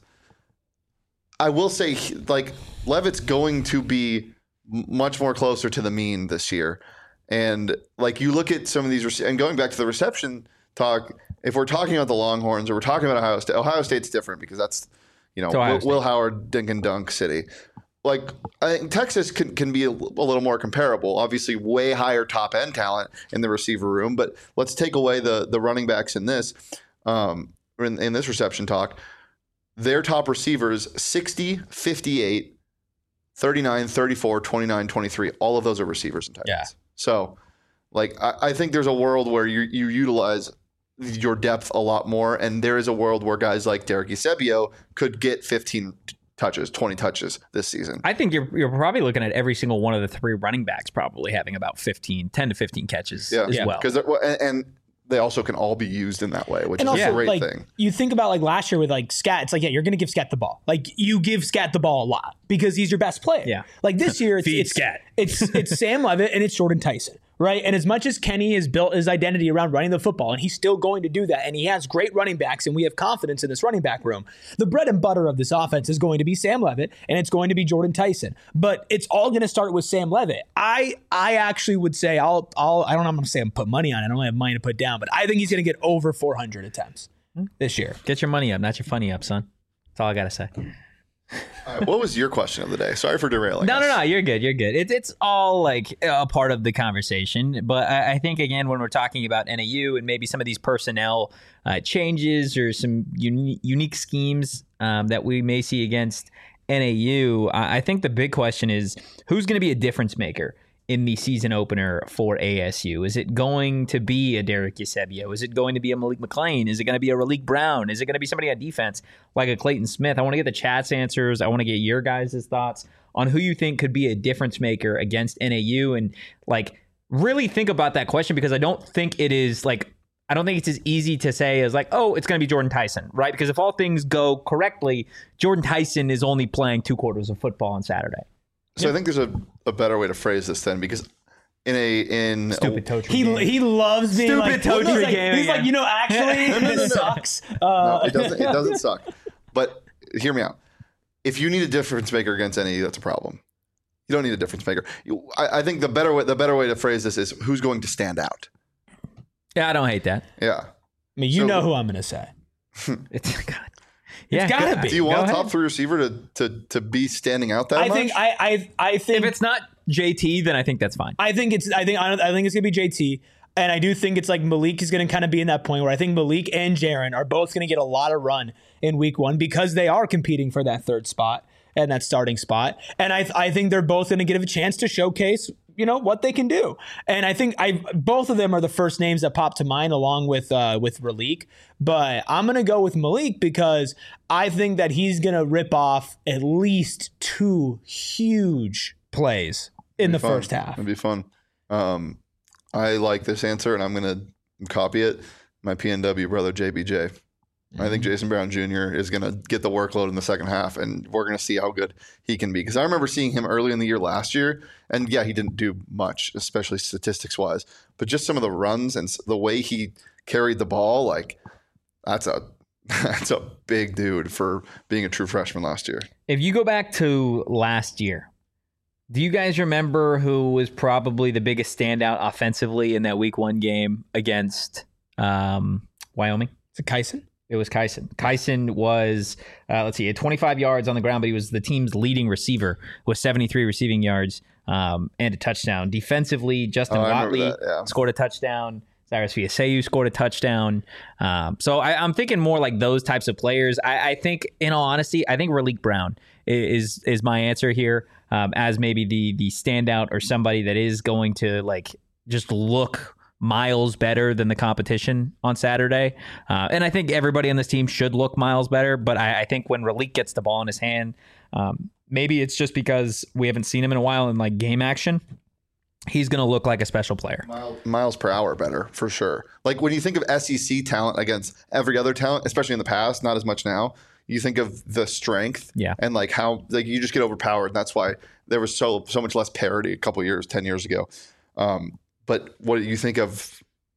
I will say, he- like Levitt's going to be m- much more closer to the mean this year, and like you look at some of these, rece- and going back to the reception talk, if we're talking about the Longhorns or we're talking about Ohio State, Ohio State's different because that's, you know, Ohio Will, State. Will Howard, dink and dunk city. Like I think Texas can, can be a, a little more comparable. Obviously, way higher top end talent in the receiver room. But let's take away the the running backs in this um, in, in this reception talk. Their top receivers sixty, fifty-eight, thirty-nine, thirty-four, twenty-nine, twenty-three. All of those are receivers and tight ends. Yeah. So, like I, I think there's a world where you you utilize your depth a lot more, and there is a world where guys like Derek Eusebio could get fifteen touches, twenty touches this season. I think you're you're probably looking at every single one of the three running backs probably having about fifteen, ten to fifteen catches Yeah, as well. because and, and they also can all be used in that way, which And is also, a great like, thing. you think about like last year with like Scat, it's like, yeah, you're going to give Scat the ball. Like you give Scat the ball a lot because he's your best player. Yeah. Like this year, it's Feed it's, Scat. it's it's Sam Levitt and it's Jordan Tyson, right? And as much as Kenny has built his identity around running the football, and he's still going to do that, and he has great running backs, and we have confidence in this running back room, the bread and butter of this offense is going to be Sam Levitt, and it's going to be Jordan Tyson. But it's all going to start with Sam Levitt. I I actually would say I'll I'll I don't know I'm going to say I'm put money on it. I don't have money to put down, but I think he's going to get over four hundred attempts this year. Get your money up, not your funny up, son. That's all I gotta say. All right, what was your question of the day? Sorry for derailing. No, us. no, no. You're good. You're good. It's it's all like a part of the conversation. But I, I think again, when we're talking about N A U and maybe some of these personnel uh, changes or some uni- unique schemes um, that we may see against N A U, I, I think the big question is who's going to be a difference maker in the season opener for A S U? Is it going to be a Derek Eusebio? Is it going to be a Malik McLean? Is it going to be a Raleek Brown? Is it going to be somebody on defense like a Clayton Smith? I want to get the chat's answers. I want to get your guys' thoughts on who you think could be a difference maker against N A U, and like really think about that question, because I don't think it is like I don't think it's as easy to say as like, oh, it's going to be Jordan Tyson, right? Because if all things go correctly, Jordan Tyson is only playing two quarters of football on Saturday. So I think there's a, a better way to phrase this then, because in a in Stupid a, toe tree He game. he loves being Stupid like, toe he's tree like, game he's like, again. you know, actually, no, no, no. this sucks. no, Uh, it doesn't it doesn't suck. But hear me out. If you need a difference maker against N A U, that's a problem. You don't need a difference maker. You, I, I think the better way the better way to phrase this is who's going to stand out. Yeah, I don't hate that. Yeah. I mean, you So- know who I'm going to say. It's God. Yeah, gotta go- be. Do you go want a ahead. top three receiver to to to be standing out that I much? think I I I think If it's not J T, then I think that's fine. I think it's I think I think it's gonna be J T, and I do think it's like Malik is gonna kind of be in that point where I think Malik and Jaron are both gonna get a lot of run in week one because they are competing for that third spot and that starting spot, and I I think they're both gonna get a chance to showcase, you know, what they can do. And I think I both of them are the first names that pop to mind along with uh, with Raleek. But I'm gonna go with Malik because I think that he's gonna rip off at least two huge plays in the Fun. first half. It'd be fun. Um, I like this answer, and I'm gonna copy it. My P N W brother J B J. I think Jason Brown Junior is going to get the workload in the second half, and we're going to see how good he can be. Because I remember seeing him early in the year last year, and yeah, he didn't do much, especially statistics wise. But just some of the runs and s- the way he carried the ball, like that's a that's a big dude for being a true freshman last year. If you go back to last year, do you guys remember who was probably the biggest standout offensively in that week one game against um, Wyoming? Is it Kyson? It was Kyson. Kyson was, uh, let's see, he had twenty-five yards on the ground, but he was the team's leading receiver with seventy-three receiving yards um, and a touchdown. Defensively, Justin Oh, I remember Watley that, yeah. scored a touchdown. Cyrus Fiaseyu scored a touchdown. Um, so I, I'm thinking more like those types of players. I, I think, in all honesty, I think Raleek Brown is is my answer here um, as maybe the the standout or somebody that is going to like just look miles better than the competition on Saturday. Uh, and I think everybody on this team should look miles better. But I, I think when Raleek gets the ball in his hand, um, maybe it's just because we haven't seen him in a while in like game action. He's going to look like a special player. Miles, miles per hour better, for sure. Like when you think of S E C talent against every other talent, especially in the past, not as much now, you think of the strength Yeah. and like how like you just get overpowered. And that's why there was so so much less parity a couple years, ten years ago. Um, but what do you think of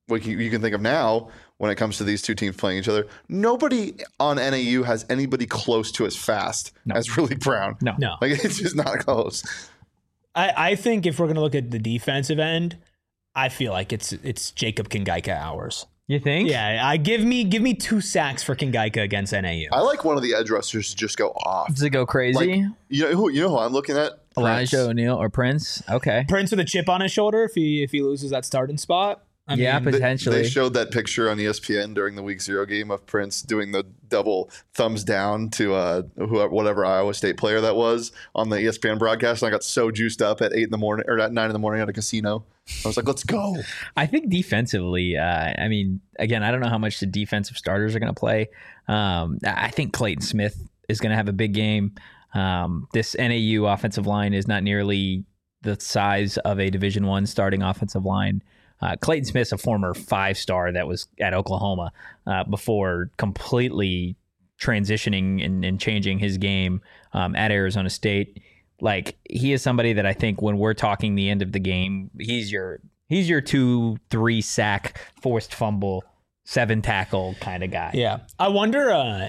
like you, you can think of now when it comes to these two teams playing each other. Nobody on N A U has anybody close to as fast No. as Riley Brown. No. No. Like, it's just not close. I, I think if we're going to look at the defensive end, I feel like it's it's Jacob Kingaika hours. You think? Yeah, I give me give me two sacks for Kingaika against N A U. I like one of the edge rushers to just go off. Does it go crazy? Like, you know who? You know who I'm looking at? Elijah Prince. O'Neal or Prince? Okay. Prince with a chip on his shoulder if he if he loses that starting spot. I Yeah, mean, but- They- Potentially. They showed that picture on E S P N during the week zero game of Prince doing the double thumbs down to uh, whoever, whatever Iowa State player that was on the E S P N broadcast. And I got so juiced up at eight in the morning or at nine in the morning at a casino. I was like, let's go. I think defensively, uh, I mean, again, I don't know how much the defensive starters are going to play. Um, I think Clayton Smith is going to have a big game. Um, this N A U offensive line is not nearly the size of a Division One starting offensive line. Uh, Clayton Smith's a former five-star that was at Oklahoma uh, before completely transitioning and, and changing his game um, at Arizona State. Like, he is somebody that I think when we're talking the end of the game, he's your he's your two, three sack, forced fumble, seven tackle kind of guy. yeah. I wonder uh,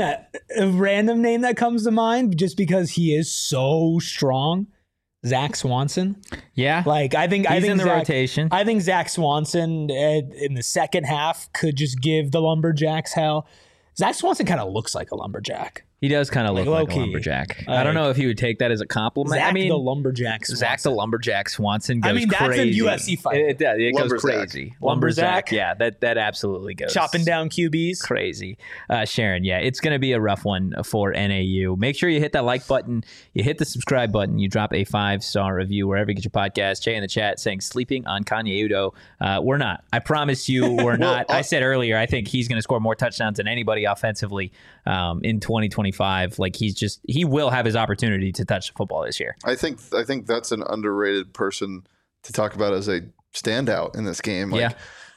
a random name that comes to mind just because he is so strong. Zach Swanson. Yeah. Like I think I He's think in the Zach, rotation. I think Zach Swanson uh, in the second half could just give the Lumberjacks hell. Zach Swanson kind of looks like a lumberjack. He does kind of Like, look like a low-key. lumberjack. I Like- don't know if he would take that as a compliment. Zach I mean, the lumberjack. Swanson. Zach the lumberjack Swanson goes I mean, that's a crazy. U F C fight. It, it does. It goes Lumberzack. crazy. Lumberzack. Yeah, that that absolutely goes. chopping down Q Bs. Crazy. Uh, Sharon, yeah, it's going to be a rough one for N A U. Make sure you hit that like button, you hit the subscribe button, you drop a five-star review wherever you get your podcast. Jay in the chat saying, sleeping on Kanye Udo. Uh, we're not. I promise you we're not. I said earlier, I think he's going to score more touchdowns than anybody offensively um, in twenty twenty-five. Like, he's just, he will have his opportunity to touch the football this year. I think I think that's an underrated person to talk about as a standout in this game. Like, Yeah.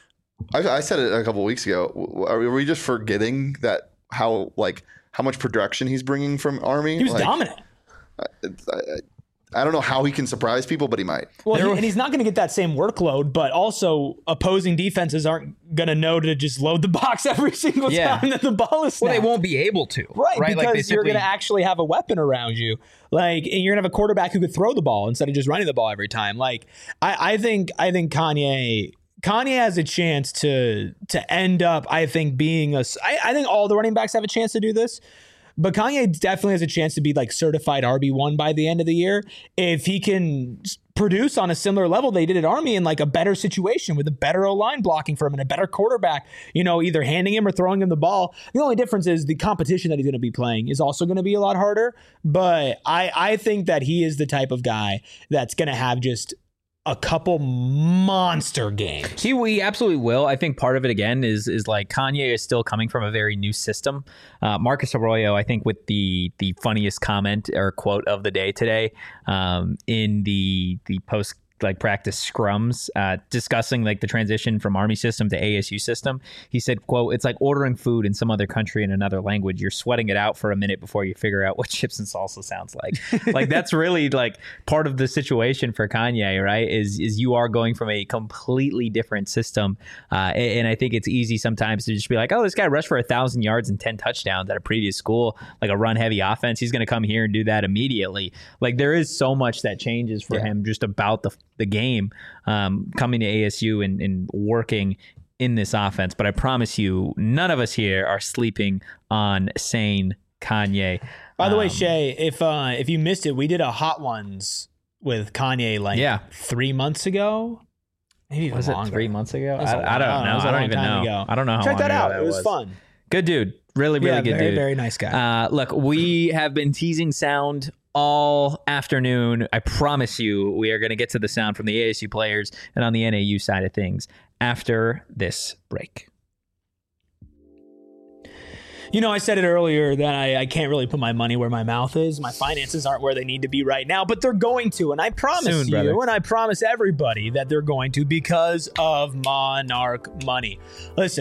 I, I said it a couple weeks ago. W- Are we just forgetting that how like how much production he's bringing from Army? He was Like, dominant. it's- I, I, I don't know how he can surprise people, but he might. Well, There he, were- and he's not going to get that same workload, but also opposing defenses aren't going to know to just load the box every single Yeah. time that the ball is Well, snapped. they won't be able to. Right, Right? because Like, they you're simply- going to actually have a weapon around you. Like, and you're going to have a quarterback who could throw the ball instead of just running the ball every time. Like, I, I think, I think Kanye, Kanye has a chance to to end up, I think, being a. I, I think all the running backs have a chance to do this. But Kanye definitely has a chance to be like certified R B one by the end of the year if he can s- produce on a similar level they did at Army in like a better situation with a better O-line blocking for him and a better quarterback, you know, either handing him or throwing him the ball. The only difference is the competition that he's going to be playing is also going to be a lot harder. But I, I think that he is the type of guy that's going to have just a couple monster games. He, he absolutely will. I think part of it again is is like Kanye is still coming from a very new system. Uh, Marcus Arroyo, I think, with the the funniest comment or quote of the day today um, in the the post like practice scrums uh, discussing like the transition from Army system to A S U system. He said, quote, "It's like ordering food in some other country in another language. You're sweating it out for a minute before you figure out what chips and salsa sounds like." Like, that's really like part of the situation for Kanye, right? Is is you are going from a completely different system. Uh, and, and I think it's easy sometimes to just be like, oh, this guy rushed for a thousand yards and ten touchdowns at a previous school, like a run heavy offense. He's going to come here and do that immediately. Like, there is so much that changes for Yeah. him just about the the game um, coming to A S U and, and working in this offense. But I promise you, none of us here are sleeping on sane Kanye. By the way, Um, Shay, if uh, if you missed it, we did a Hot Ones with Kanye like Yeah. three months ago. Maybe even was it longer. three months ago? It was a I, I don't long- know. it was a I don't long even time know. ago. I don't know how Check long that ago out. that It was, fun. Good dude. Really, really yeah, good very, dude. very nice guy. Uh, look, we have been teasing sound all afternoon. I promise you, we are going to get to the sound from the A S U players and on the N A U side of things after this break. You know, I said it earlier that I, I can't really put my money where my mouth is. My finances aren't where they need to be right now, but they're going to. And I promise Soon, you, brother. and I promise everybody that they're going to because of Monarch Money. Listen,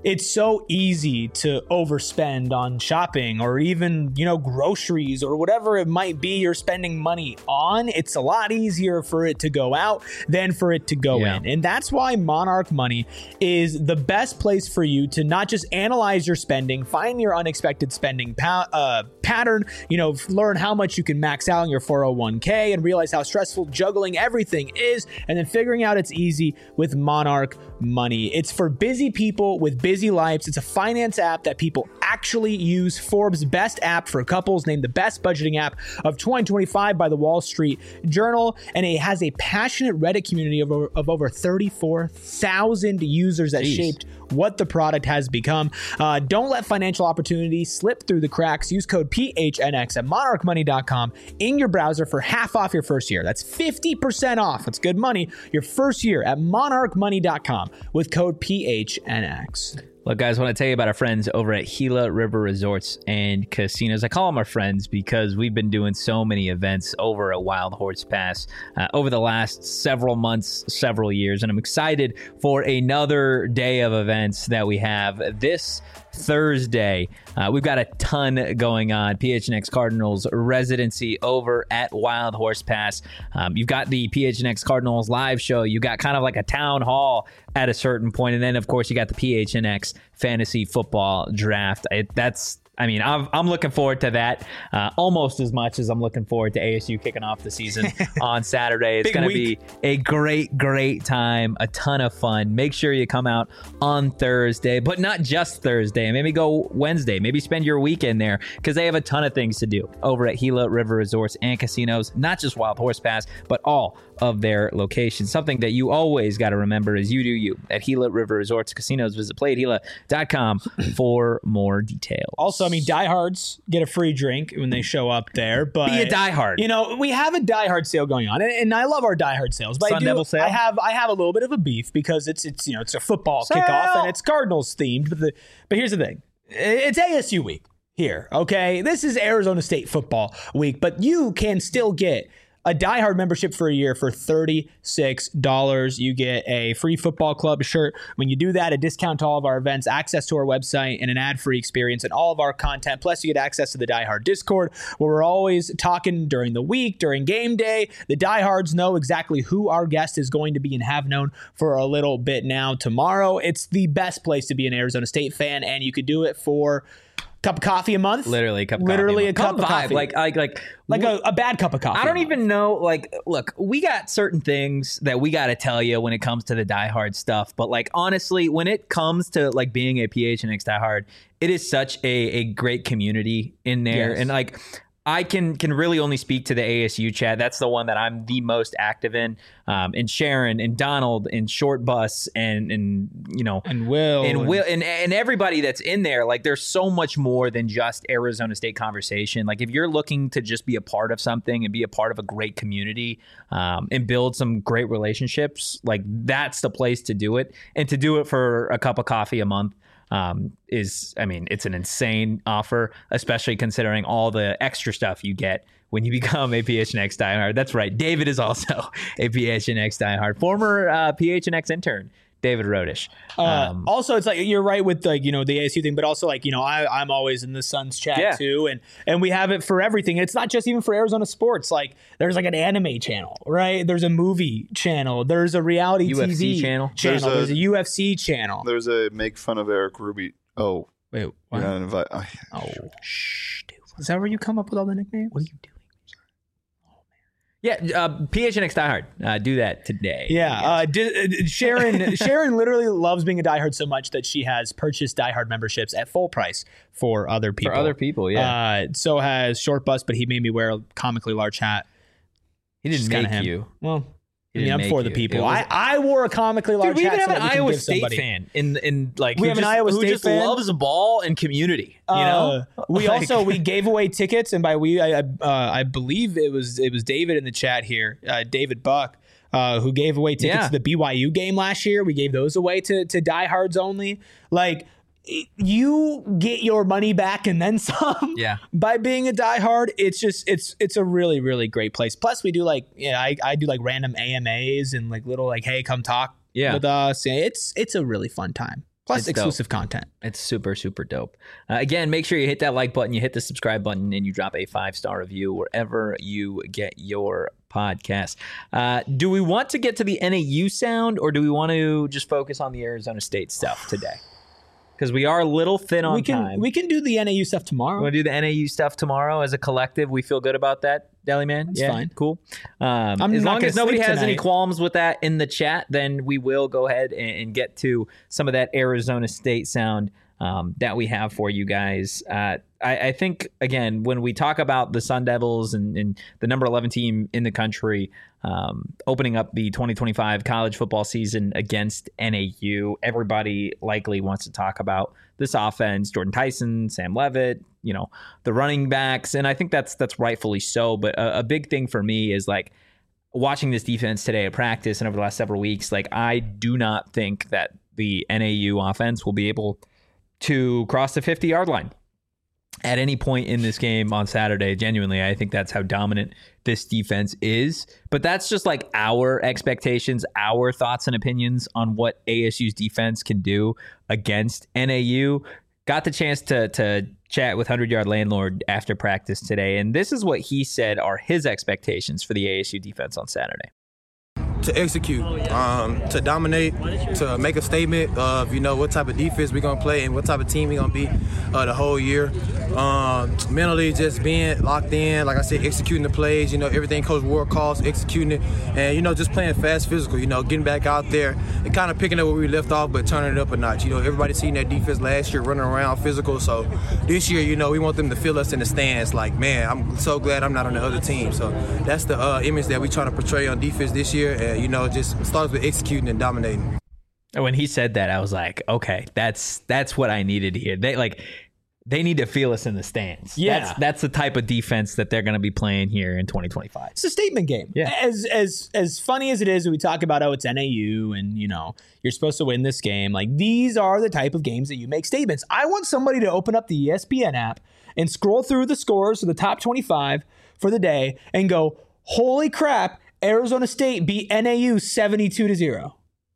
it's so easy to overspend on shopping or even, you know, groceries or whatever it might be you're spending money on. It's a lot easier for it to go out than for it to go Yeah. in. And that's why Monarch Money is the best place for you to not just analyze your spending, find your unexpected spending pa- uh, pattern, you know, learn how much you can max out in your four oh one k and realize how stressful juggling everything is, and then figuring out it's easy with Monarch Money. It's for busy people with busy lives. It's a finance app that people actually use. Forbes' best app for couples, named the best budgeting app of twenty twenty-five by the Wall Street Journal, and it has a passionate Reddit community of over, of over thirty-four thousand users that Jeez. shaped what the product has become. Uh, don't let financial opportunities slip through the cracks. Use code P H N X at monarch money dot com in your browser for half off your first year. That's fifty percent off. That's good money. Your first year at monarch money dot com with code P H N X. Look, guys, I want to tell you about our friends over at Gila River Resorts and Casinos. I call them our friends because we've been doing so many events over at Wild Horse Pass uh, over the last several months, several years, and I'm excited for another day of events that we have this Thursday. Uh, we've got a ton going on. P H N X Cardinals residency over at Wild Horse Pass. Um, you've got the P H N X Cardinals live show. You got kind of like a town hall at a certain point, and then of course you got the P H N X fantasy football draft. It, that's I mean, I'm, I'm looking forward to that uh, almost as much as I'm looking forward to A S U kicking off the season on Saturday. It's going to be a great, great time, a ton of fun. Make sure you come out on Thursday, but not just Thursday. Maybe go Wednesday. Maybe spend your weekend there because they have a ton of things to do over at Gila River Resorts and Casinos, not just Wild Horse Pass, but all of their locations. Something that you always got to remember is you do you at Gila River Resorts Casinos. Visit play at gila dot com for more details. Also, I mean, diehards get a free drink when they show up there. But be a diehard. You know, we have a diehard sale going on, and, and I love our diehard sales. But Sun I do, Devil sale? I have, I have a little bit of a beef because it's, it's, you know, it's a football Sale! kickoff and it's Cardinals themed. But the, but here's the thing, it's A S U week here. Okay, this is Arizona State football week, but you can still get a diehard membership for a year for thirty-six dollars. You get a free football club shirt. When you do that, a discount to all of our events, access to our website, and an ad-free experience and all of our content. Plus, you get access to the Diehard Discord, where we're always talking during the week, during game day. The diehards know exactly who our guest is going to be and have known for a little bit now. Tomorrow, it's the best place to be an Arizona State fan, and you could do it for cup of coffee a month. Literally a cup of Literally coffee. a cup of vibe. coffee. Like, like, like, Like a, a bad cup of coffee. I don't a month. even know. Like, look, we got certain things that we got to tell you when it comes to the diehard stuff. But like, honestly, when it comes to like being a P H N X diehard, it is such a, a great community in there. Yes. And like, I can can really only speak to the A S U chat. That's the one that I'm the most active in. Um, and Sharon and Donald and Short Bus and and you know And Will. and Will and, and everybody that's in there. Like, there's so much more than just Arizona State conversation. Like, if you're looking to just be a part of something and be a part of a great community um, and build some great relationships, like, that's the place to do it. And to do it for a cup of coffee a month um, is, I mean, it's an insane offer, especially considering all the extra stuff you get when you become a P H N X diehard. That's right. David is also a P H N X diehard, former uh, P H N X intern, David Rodish. Uh, Um, also, it's like you're right with like you know the A S U thing, but also like you know I I'm always in the Suns chat Yeah. too, and and we have it for everything. And it's not just even for Arizona sports. Like there's like an anime channel, right? There's a movie channel. There's a reality U F C T V channel. Channel. There's There's a- a, U F C channel. There's a make fun of Eric Ruby. Oh, Wait, you're what? not invite. I- Oh, shh, dude. Is that where you come up with all the nicknames? What are you doing? Yeah, uh, P H N X diehard. Uh, do that today. Yeah, uh, di- uh, Sharon. Sharon literally loves being a diehard so much that she has purchased diehard memberships at full price for other people. For other people, yeah. Uh, so has Short Bus, but he made me wear a comically large hat. he didn't Just kinda make him. you. Well, He I mean, didn't I'm make for the you. people. It was- I, I wore a comically large Dude, we hat. even have so an that we can Iowa give State somebody. fan in in like We who have an just, Iowa who State just fan? loves ball and community. You Uh, know, we Like- also we gave away tickets, and by we, I, I, uh, I believe it was it was David in the chat here, uh, David Buck, uh, who gave away tickets Yeah. to the B Y U game last year. We gave those away to to diehards only. Like, you get your money back and then some. Yeah. By being a diehard, it's just it's it's a really really great place. Plus, we do like yeah, I I do like random A M As and like little like hey come talk Yeah. with us. It's it's a really fun time. Plus It's exclusive content. It's super, super dope. Uh, again, make sure you hit that like button, you hit the subscribe button, and you drop a five-star review wherever you get your podcast. Uh, do we want to get to the N A U sound, or do we want to just focus on the Arizona State stuff today? Because we are a little thin on we can time. we can do the N A U stuff tomorrow. We'll do the N A U stuff tomorrow as a collective. We feel good about that, Deli Man. That's yeah, fine. Cool. Um, I'm as not long gonna as nobody sleep has any tonight. qualms with that in the chat, then we will go ahead and, and get to some of that Arizona State sound um, that we have for you guys. Uh, I, I think, again, when we talk about the Sun Devils and, and the number eleven team in the country um, opening up the twenty twenty-five college football season against N A U, everybody likely wants to talk about this offense, Jordan Tyson, Sam Levitt, you know, the running backs. And I think that's that's rightfully so. But a, a big thing for me is like watching this defense today at practice and over the last several weeks, like I do not think that the N A U offense will be able to cross the fifty-yard line at any point in this game on Saturday. Genuinely, I think that's how dominant this defense is. But that's just like our expectations, our thoughts and opinions on what A S U's defense can do against N A U. Got the chance to to chat with hundred-Yard Landlord after practice today, and this is what he said are his expectations for the A S U defense on Saturday. To execute, um, to dominate, to make a statement of, you know, what type of defense we're going to play and what type of team we're going to be uh, the whole year. Um, mentally just being locked in, like I said, executing the plays, you know, everything Coach Ward calls, executing it, and, you know, just playing fast physical, you know, getting back out there and kind of picking up where we left off but turning it up a notch. You know, everybody seen that defense last year running around physical, so this year, you know, we want them to feel us in the stands like, man, I'm so glad I'm not on the other team. So that's the uh, image that we're trying to portray on defense this year. And, you know, just starts with executing and dominating. When he said that, I was like, okay, that's that's what I needed to hear. They like they need to feel us in the stands. Yeah. That's, that's the type of defense that they're going to be playing here in twenty twenty-five. It's a statement game. Yeah. As as as funny as it is, we talk about, oh, it's N A U and, you know, you're supposed to win this game. Like, these are the type of games that you make statements. I want somebody to open up the E S P N app and scroll through the scores of the top twenty-five for the day and go, holy crap, Arizona State beat N A U seventy-two to zero.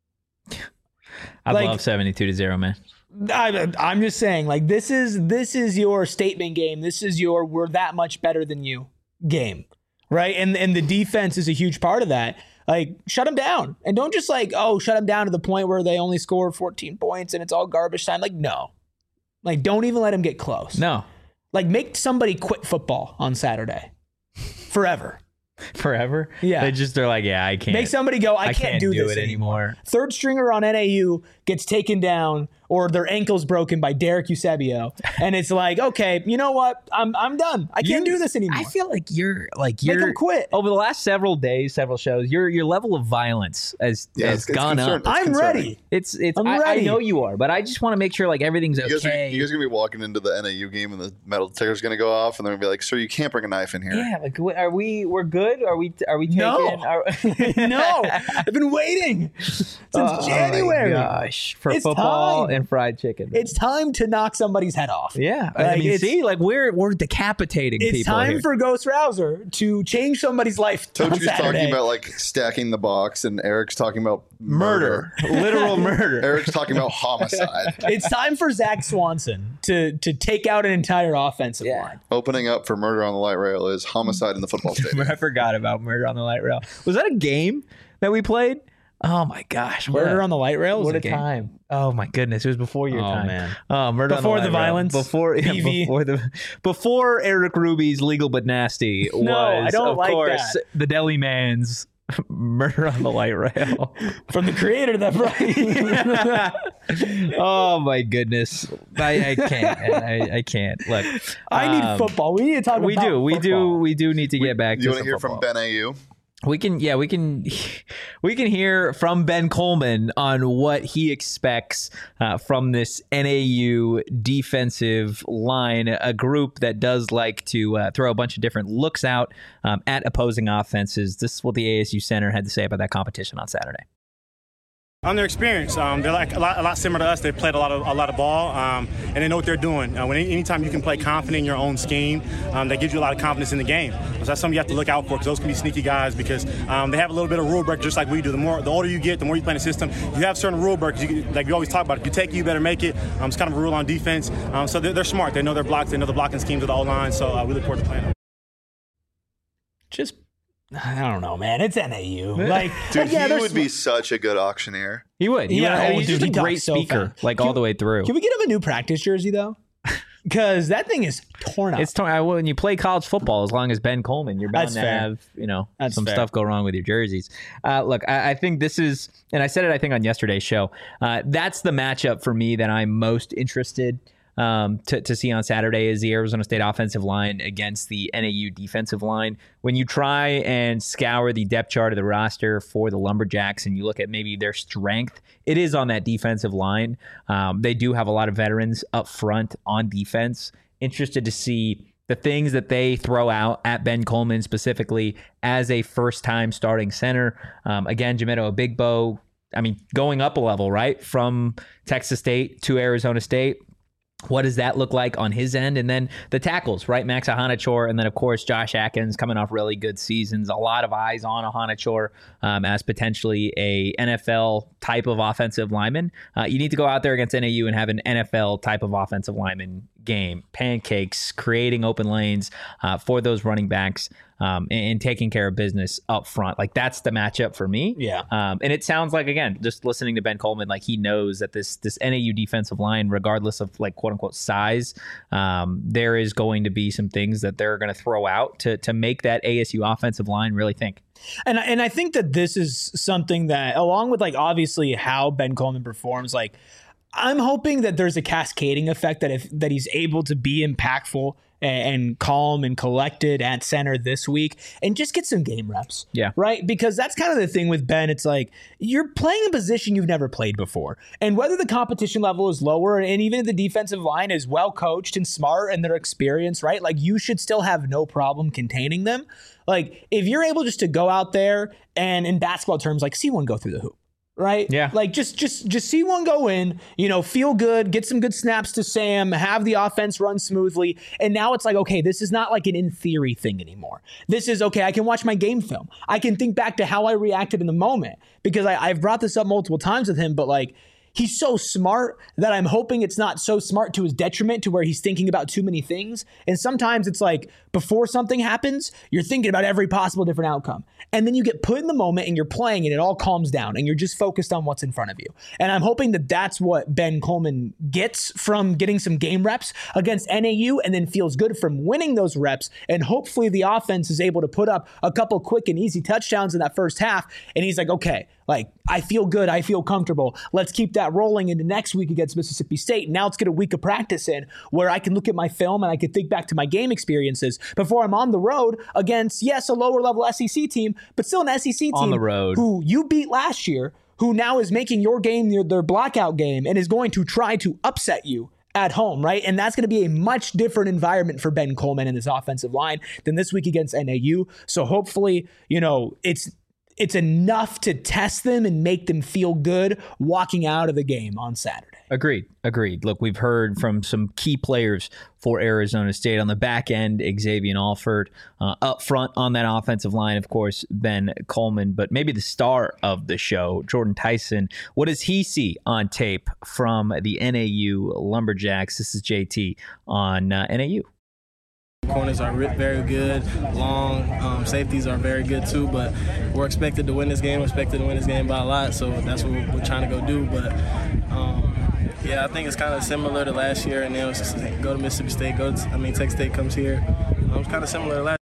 I Like- love seventy-two to zero, man. I, I'm just saying, like, this is this is your statement game. This is your we're that much better than you game, right? And and the defense is a huge part of that. Like, shut them down, and don't just like, oh, shut them down to the point where they only score fourteen points and it's all garbage time. Like, no, like, don't even let them get close. No, Like, make somebody quit football on Saturday forever. forever. Yeah. They just are like, yeah, I can't. Make somebody go, I, I can't, do, this it anymore. Third stringer on N A U gets taken down or their ankle's broken by Derek Eusebio. And it's like, okay, you know what? I'm I'm done. I can't You- do this anymore. I feel like you're like Make you're them quit. over the last several days, several shows. Your your level of violence has Yeah, has it's- it's gone concern- up. it's I'm concerning. ready. It's it's. I'm I, I ready. know you are, but I just want to make sure like everything's You guys, are, okay. you guys are gonna be walking into the N A U game and the metal detector's gonna go off, and they're gonna be like, "Sir, you can't bring a knife in here." Yeah, like wh- are we? We're good. Are we? Are we taking? No. Are, No, I've been waiting since Oh January. my gosh, for It's football time. and fried chicken. It's time to knock somebody's head off. yeah, I Like, mean, it's- see, like we're we're decapitating It's people time here. for Ghost Rouser to change somebody's life on Tochi's Saturday. talking about like stacking the box, and Eric's talking about murder, literal murder. Eric's talking about homicide. It's time for Zach Swanson to to take out an entire offensive Yeah. line. Opening up for murder on the light rail is homicide in the football stadium. I forgot about Murder on the Light Rail. Was that a game that we played? Oh my gosh, what Murder a, on the Light Rail. what was a game. time! Oh my goodness, it was before your Oh, time. man. Oh, Murder Before on the, the Light Rail. violence, before yeah, B V. before the before Eric Ruby's Legal but Nasty was No, I don't of like course that. the Deli Man's Murder on the Light Rail. From the creator of that Brian. Oh my goodness, I, I can't, I, I can't. Look, I need um, football. We need to talk We about do, we do, football. we do need to get back to You want some to hear football. from Ben A U? We can, yeah, we can, we can hear from Ben Coleman on what he expects uh, from this N A U defensive line, a group that does like to uh, throw a bunch of different looks out um, at opposing offenses. This is what the A S U center had to say about that competition on Saturday. On their experience, um, they're like a lot, a lot similar to us. They've played a lot of a lot of ball, um, and they know what they're doing. Uh, when anytime you can play confident in your own scheme, um, that gives you a lot of confidence in the game. So that's something you have to look out for, because those can be sneaky guys, because um, they have a little bit of rule break just like we do. The more, the older you get, the more you play in the system. You have certain rule breaks. You, like we always talk about, if you take it, you better make it. Um, it's kind of a rule on defense. Um, so they're, they're smart. They know their blocks. They know the blocking schemes of the O-line. So uh, we look forward to playing them. Just. I don't know, man. It's N A U. Like, Dude, like, yeah, he there's- would be such a good auctioneer. He would. He Yeah, would. oh, He's dude, just he a great talks so speaker, fast. like Can- all the way through. Can we get him a new practice jersey though? Because that thing is torn up. It's torn. I- When you play college football, as long as Ben Coleman, you're bound That's to fair. have you know That's some fair. stuff go wrong with your jerseys. Uh, look, I, I think this is, and I said it, I think on yesterday's show. Uh, that's the matchup for me that I'm most interested um, to to see on Saturday is the Arizona State offensive line against the N A U defensive line. When you try and scour the depth chart of the roster for the Lumberjacks and you look at maybe their strength, it is on that defensive line. Um, they do have a lot of veterans up front on defense. Interested to see the things that they throw out at Ben Coleman specifically as a first-time starting center. Um, again, Jamito Obigbo, I mean, going up a level, right, from Texas State to Arizona State. What does that look like on his end? And then the tackles, right? Max Ahanachor, and then, of course, Josh Atkins coming off really good seasons. A lot of eyes on Ahanachor um, as potentially a N F L type of offensive lineman. Uh, you need to go out there against N A U and have an N F L type of offensive lineman game. Pancakes, creating open lanes uh, for those running backs. Um, and, and taking care of business up front. Like, that's the matchup for me. Yeah. Um, and it sounds like, again, just listening to Ben Coleman, like he knows that this this N A U defensive line, regardless of like quote unquote size, um, there is going to be some things that they're going to throw out to to make that A S U offensive line really think. And and I think that this is something that, along with like obviously how Ben Coleman performs, like I'm hoping that there's a cascading effect that if that he's able to be impactful and, and calm and collected at center this week and just get some game reps. Yeah. Right? Because that's kind of the thing with Ben. It's like you're playing a position you've never played before. And whether the competition level is lower and even if the defensive line is well coached and smart and their experience, right? Like you should still have no problem containing them. Like if you're able just to go out there and in basketball terms, like see one go through the hoop. Right? Yeah. Like just just just see one go in, you know, feel good, get some good snaps to Sam, have the offense run smoothly. And now it's like, okay, this is not like an in theory thing anymore. This is, okay, I can watch my game film. I can think back to how I reacted in the moment because I, I've brought this up multiple times with him, but like, he's so smart that I'm hoping it's not so smart to his detriment to where he's thinking about too many things. And sometimes it's like before something happens, you're thinking about every possible different outcome. And then you get put in the moment and you're playing and it all calms down and you're just focused on what's in front of you. And I'm hoping that that's what Ben Coleman gets from getting some game reps against N A U and then feels good from winning those reps. And hopefully the offense is able to put up a couple quick and easy touchdowns in that first half. And he's like, okay, like I feel good. I feel comfortable. Let's keep that rolling into next week against Mississippi State. Now let's get a week of practice in where I can look at my film and I can think back to my game experiences before I'm on the road against, yes, a lower level S E C team, but still an S E C team On the road. who you beat last year, who now is making your game their, their blackout game and is going to try to upset you at home, right? And that's going to be a much different environment for Ben Coleman and this offensive line than this week against N A U. So hopefully, you know, it's it's enough to test them and make them feel good walking out of the game on Saturday. Agreed. Agreed. Look, we've heard from some key players for Arizona State on the back end, Xavier Alford, uh, up front on that offensive line, of course, Ben Coleman, but maybe the star of the show, Jordan Tyson. What does he see on tape from the N A U Lumberjacks? This is J T on uh, N A U. Corners are very good, long. Um, safeties are very good too, but we're expected to win this game. We're expected to win this game by a lot, so that's what we're trying to go do. But um, yeah, I think it's kind of similar to last year, and then it's just go to Mississippi State. Go, to, I mean, Texas State comes here. Um, it's kind of similar to last.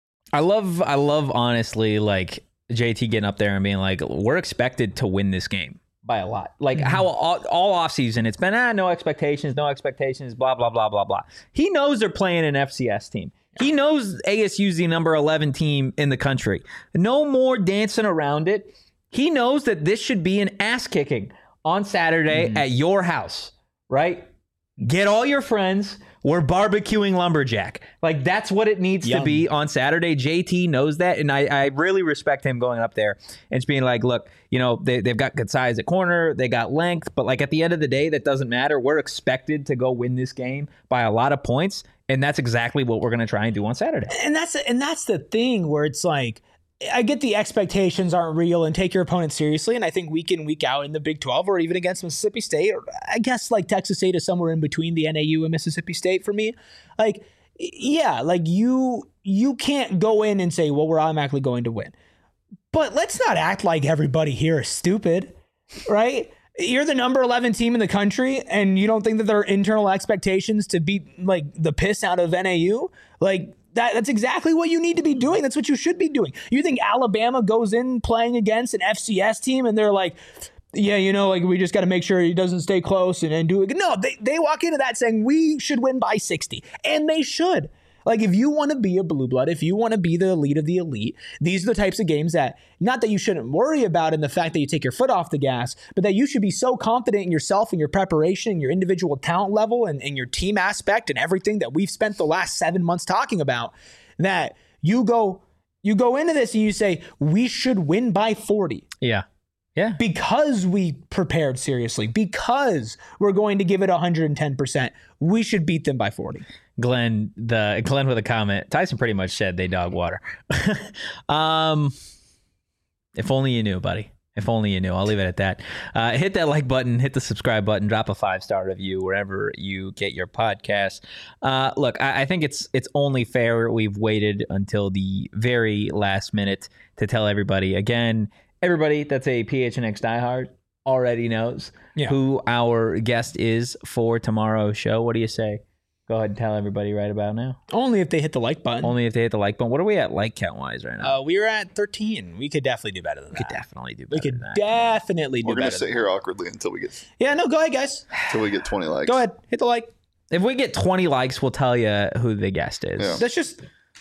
I love, I love honestly, like J T getting up there and being like, we're expected to win this game by a lot. Like mm-hmm. how all, all offseason it's been, ah, no expectations, no expectations, blah, blah, blah, blah, blah. He knows they're playing an F C S team. He knows A S U's the number eleven team in the country. No more dancing around it. He knows that this should be an ass kicking on Saturday mm-hmm. at your house, right? Get all your friends, We're barbecuing Lumberjack. Like, that's what it needs Yum. to be on Saturday. J T knows that, and I, I really respect him going up there and just being like, look, you know, they, they've got good size at corner, they got length, but like at the end of the day, that doesn't matter. We're expected to go win this game by a lot of points, and that's exactly what we're going to try and do on Saturday. And that's and that's the thing where it's like, I get the expectations aren't real and take your opponent seriously. And I think week in, week out in the Big twelve or even against Mississippi State, or I guess like Texas State is somewhere in between the N A U and Mississippi State for me. Like, yeah, like you you can't go in and say, well, we're automatically going to win. But let's not act like everybody here is stupid, right? You're the number eleven team in the country and you don't think that there are internal expectations to beat like the piss out of N A U? Like, That, that's exactly what you need to be doing. That's what you should be doing. You think Alabama goes in playing against an F C S team and they're like, yeah, you know, like we just got to make sure he doesn't stay close and, and do it. No, they, they walk into that saying we should win by sixty. And they should. Like, if you want to be a blue blood, if you want to be the elite of the elite, these are the types of games that, not that you shouldn't worry about in the fact that you take your foot off the gas, but that you should be so confident in yourself and your preparation and your individual talent level and, and your team aspect and everything that we've spent the last seven months talking about, that you go, you go into this and you say, we should win by forty. Yeah. Yeah. Because we prepared seriously, because we're going to give it one hundred ten percent, we should beat them by forty. Glenn, the Glenn with a comment. Tyson pretty much said they dog water. um, if only you knew, buddy. If only you knew. I'll leave it at that. Uh, hit that like button, hit the subscribe button, drop a five star review wherever you get your podcast. Uh, look, I, I think it's it's only fair we've waited until the very last minute to tell everybody again. Everybody that's a P H N X diehard already knows Yeah. who our guest is for tomorrow's show. What do you say? Go ahead and tell everybody right about now. Only if they hit the like button. Only if they hit the like button. What are we at like count wise right now? Uh, we were at thirteen. We could definitely do better than we that. could definitely do better We could than that. definitely do We're gonna better. sit than here awkwardly until we get that. Yeah, no, go ahead, guys. until we get twenty likes. Go ahead. Hit the like. If we get twenty likes, we'll tell you who the guest is. Yeah. Let's just,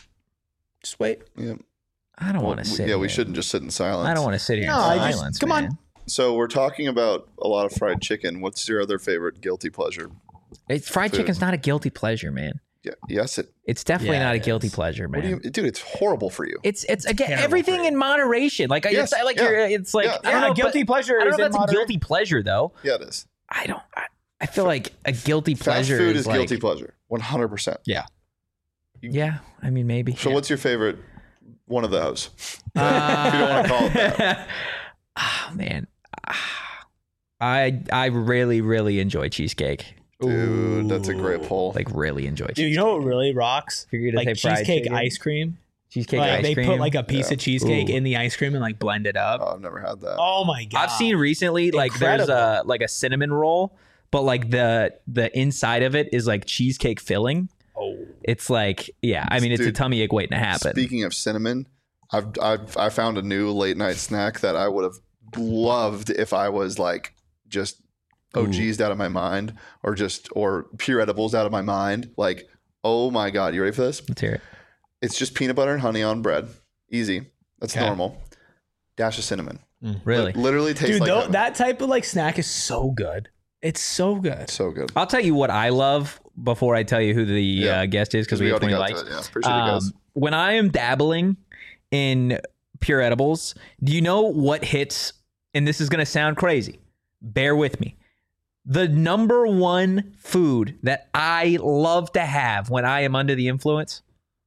just wait. Yeah. I don't Well, want to sit yeah, we here. shouldn't just sit in silence. I don't want to sit here No, in I just- silence. come on. man. So we're talking about a lot of fried chicken. What's your other favorite guilty pleasure? It's, fried Food. chicken's not a guilty pleasure, man. Yeah, yes, it. It's definitely Yeah, not a it guilty is. pleasure, man. What do you, dude? It's horrible for you. It's it's again terrible everything for you. in moderation. Like Yes, it's like yeah. you're, it's like Yeah. I don't Yeah, know, guilty but- pleasure I don't is know in if that's a moderation. guilty pleasure though. Yeah, it is. I don't. I, I feel like a guilty Fast pleasure food is, is like, guilty pleasure, one hundred percent. Yeah. Yeah, I mean maybe. So what's your favorite one of those? Uh, if you don't want to call it that. Ah, man, Ah. I I really really enjoy cheesecake. Dude, that's a great poll. Like really enjoy cheesecake. Dude, you know what really rocks? If you're gonna Like say fried cheesecake chicken, ice cream. cheesecake Like ice they cream. put like a piece Yeah. of cheesecake Ooh. in the ice cream and like blend it up. Oh, I've never had that. Oh my god! I've seen recently like there's a like a cinnamon roll, but like the the inside of it is like cheesecake filling. Oh. It's like yeah, I mean it's Dude, a tummy ache waiting to happen. Speaking of cinnamon, I've I've I found a new late night snack that I would have loved if I was like just O G'd out of my mind or just or pure edibles out of my mind. Like, oh my god, you ready for this? Let's hear it. It's just peanut butter and honey on bread. Easy. That's Okay. normal. Dash of cinnamon. Really? Li- literally tastes Dude, like though, heaven. that type of like snack is so good. It's so good. So good. I'll tell you what I love before I tell you who the Yeah. uh, guest is because we have already twenty got likes. to it. Yeah, appreciate it, guys. Um, when I am dabbling in pure edibles, do you know what hits? And this is going to sound crazy. Bear with me. The number one food that I love to have when I am under the influence?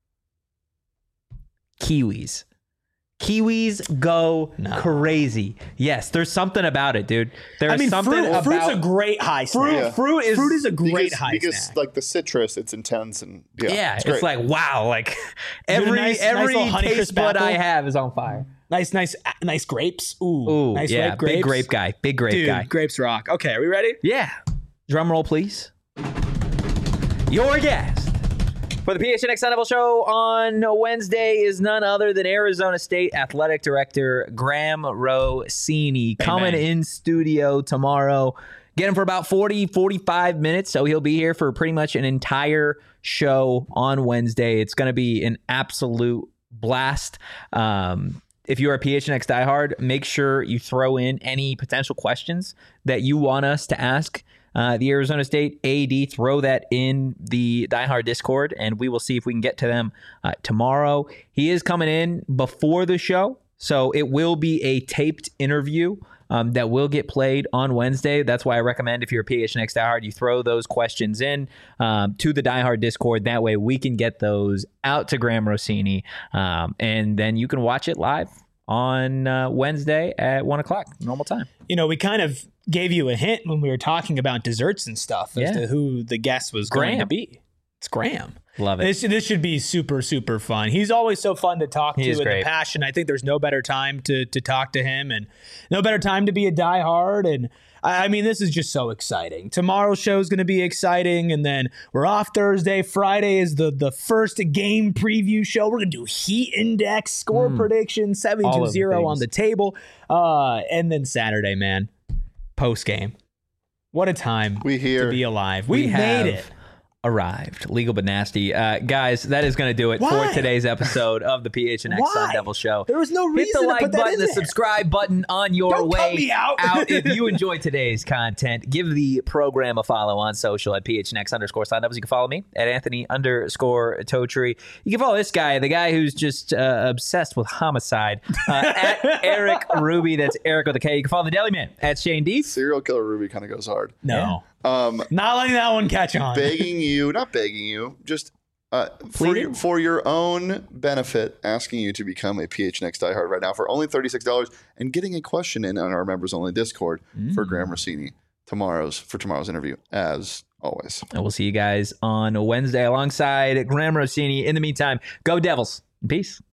Kiwis. Kiwis go No. crazy. Yes, there's something about it, dude. There's I mean, something fruit, about fruit's a great high fruit. snack. Yeah. Fruit is Fruit is a great because, high because snack. like the citrus, it's intense and yeah, Yeah, it's, it's, great. like wow, like a every nice- nice every little Honeycrisp taste bud I apple. have is on fire. nice, nice, nice grapes. Ooh, Ooh, nice yeah, ripe grapes. big grape guy, big grape Dude, guy. grapes rock. Okay, are we ready? Yeah, drum roll, please. Your guest for the P H N X Sun Devil Show on Wednesday is none other than Arizona State Athletic Director Graham Rossini coming bang. in studio tomorrow. Get him for about forty, forty-five minutes. So he'll be here for pretty much an entire show on Wednesday. It's going to be an absolute blast. Um, if you're a P H N X diehard, make sure you throw in any potential questions that you want us to ask uh, the Arizona State A D, throw that in the Die Hard Discord, and we will see if we can get to them uh, tomorrow. He is coming in before the show, so it will be a taped interview um, that will get played on Wednesday. That's why I recommend, if you're a P H N X diehard, you throw those questions in um, to the Die Hard Discord. That way we can get those out to Graham Rossini, um, and then you can watch it live on uh, Wednesday at one o'clock, normal time. You know, we kind of gave you a hint when we were talking about desserts and stuff as Yeah. to who the guest was going Graham. to be. It's Graham. Love it. This, this should be super, super fun. He's always so fun to talk He to, is and great. the passion. I think there's no better time to to talk to him, and no better time to be a diehard. And I, I mean, this is just so exciting. Tomorrow's show is going to be exciting, and then we're off Thursday. Friday is the the first game preview show. We're going to do heat index, score prediction, seven All to of the zero on things. the table, uh, and then Saturday, man, post game. What a time We here. to be alive. We, We made have it. Arrived. Legal but nasty. Uh, guys, that is going to do it Why? for today's episode of the P H N X Why? Sun Devil Show. There was no Hit reason the to like put that button, in the there. subscribe button on your Don't cut way me out. If you enjoyed today's content, give the program a follow on social at P H N X underscore Sun Devils. You can follow me at Anthony underscore Totri. You can follow this guy, the guy who's just uh, obsessed with homicide, uh, at Eric Ruby. That's Eric with a K. You can follow the Deli Man at Shane D. Serial killer Ruby kind of goes hard. No. Um, Not letting that one catch on. begging you, not begging you, just uh, for, Pleading? your, for your own benefit, asking you to become a P H N X diehard right now for only thirty-six dollars and getting a question in on our members only Discord for Graham Rossini tomorrow's for tomorrow's interview, as always. And we'll see you guys on Wednesday alongside Graham Rossini. In the meantime, go Devils. Peace.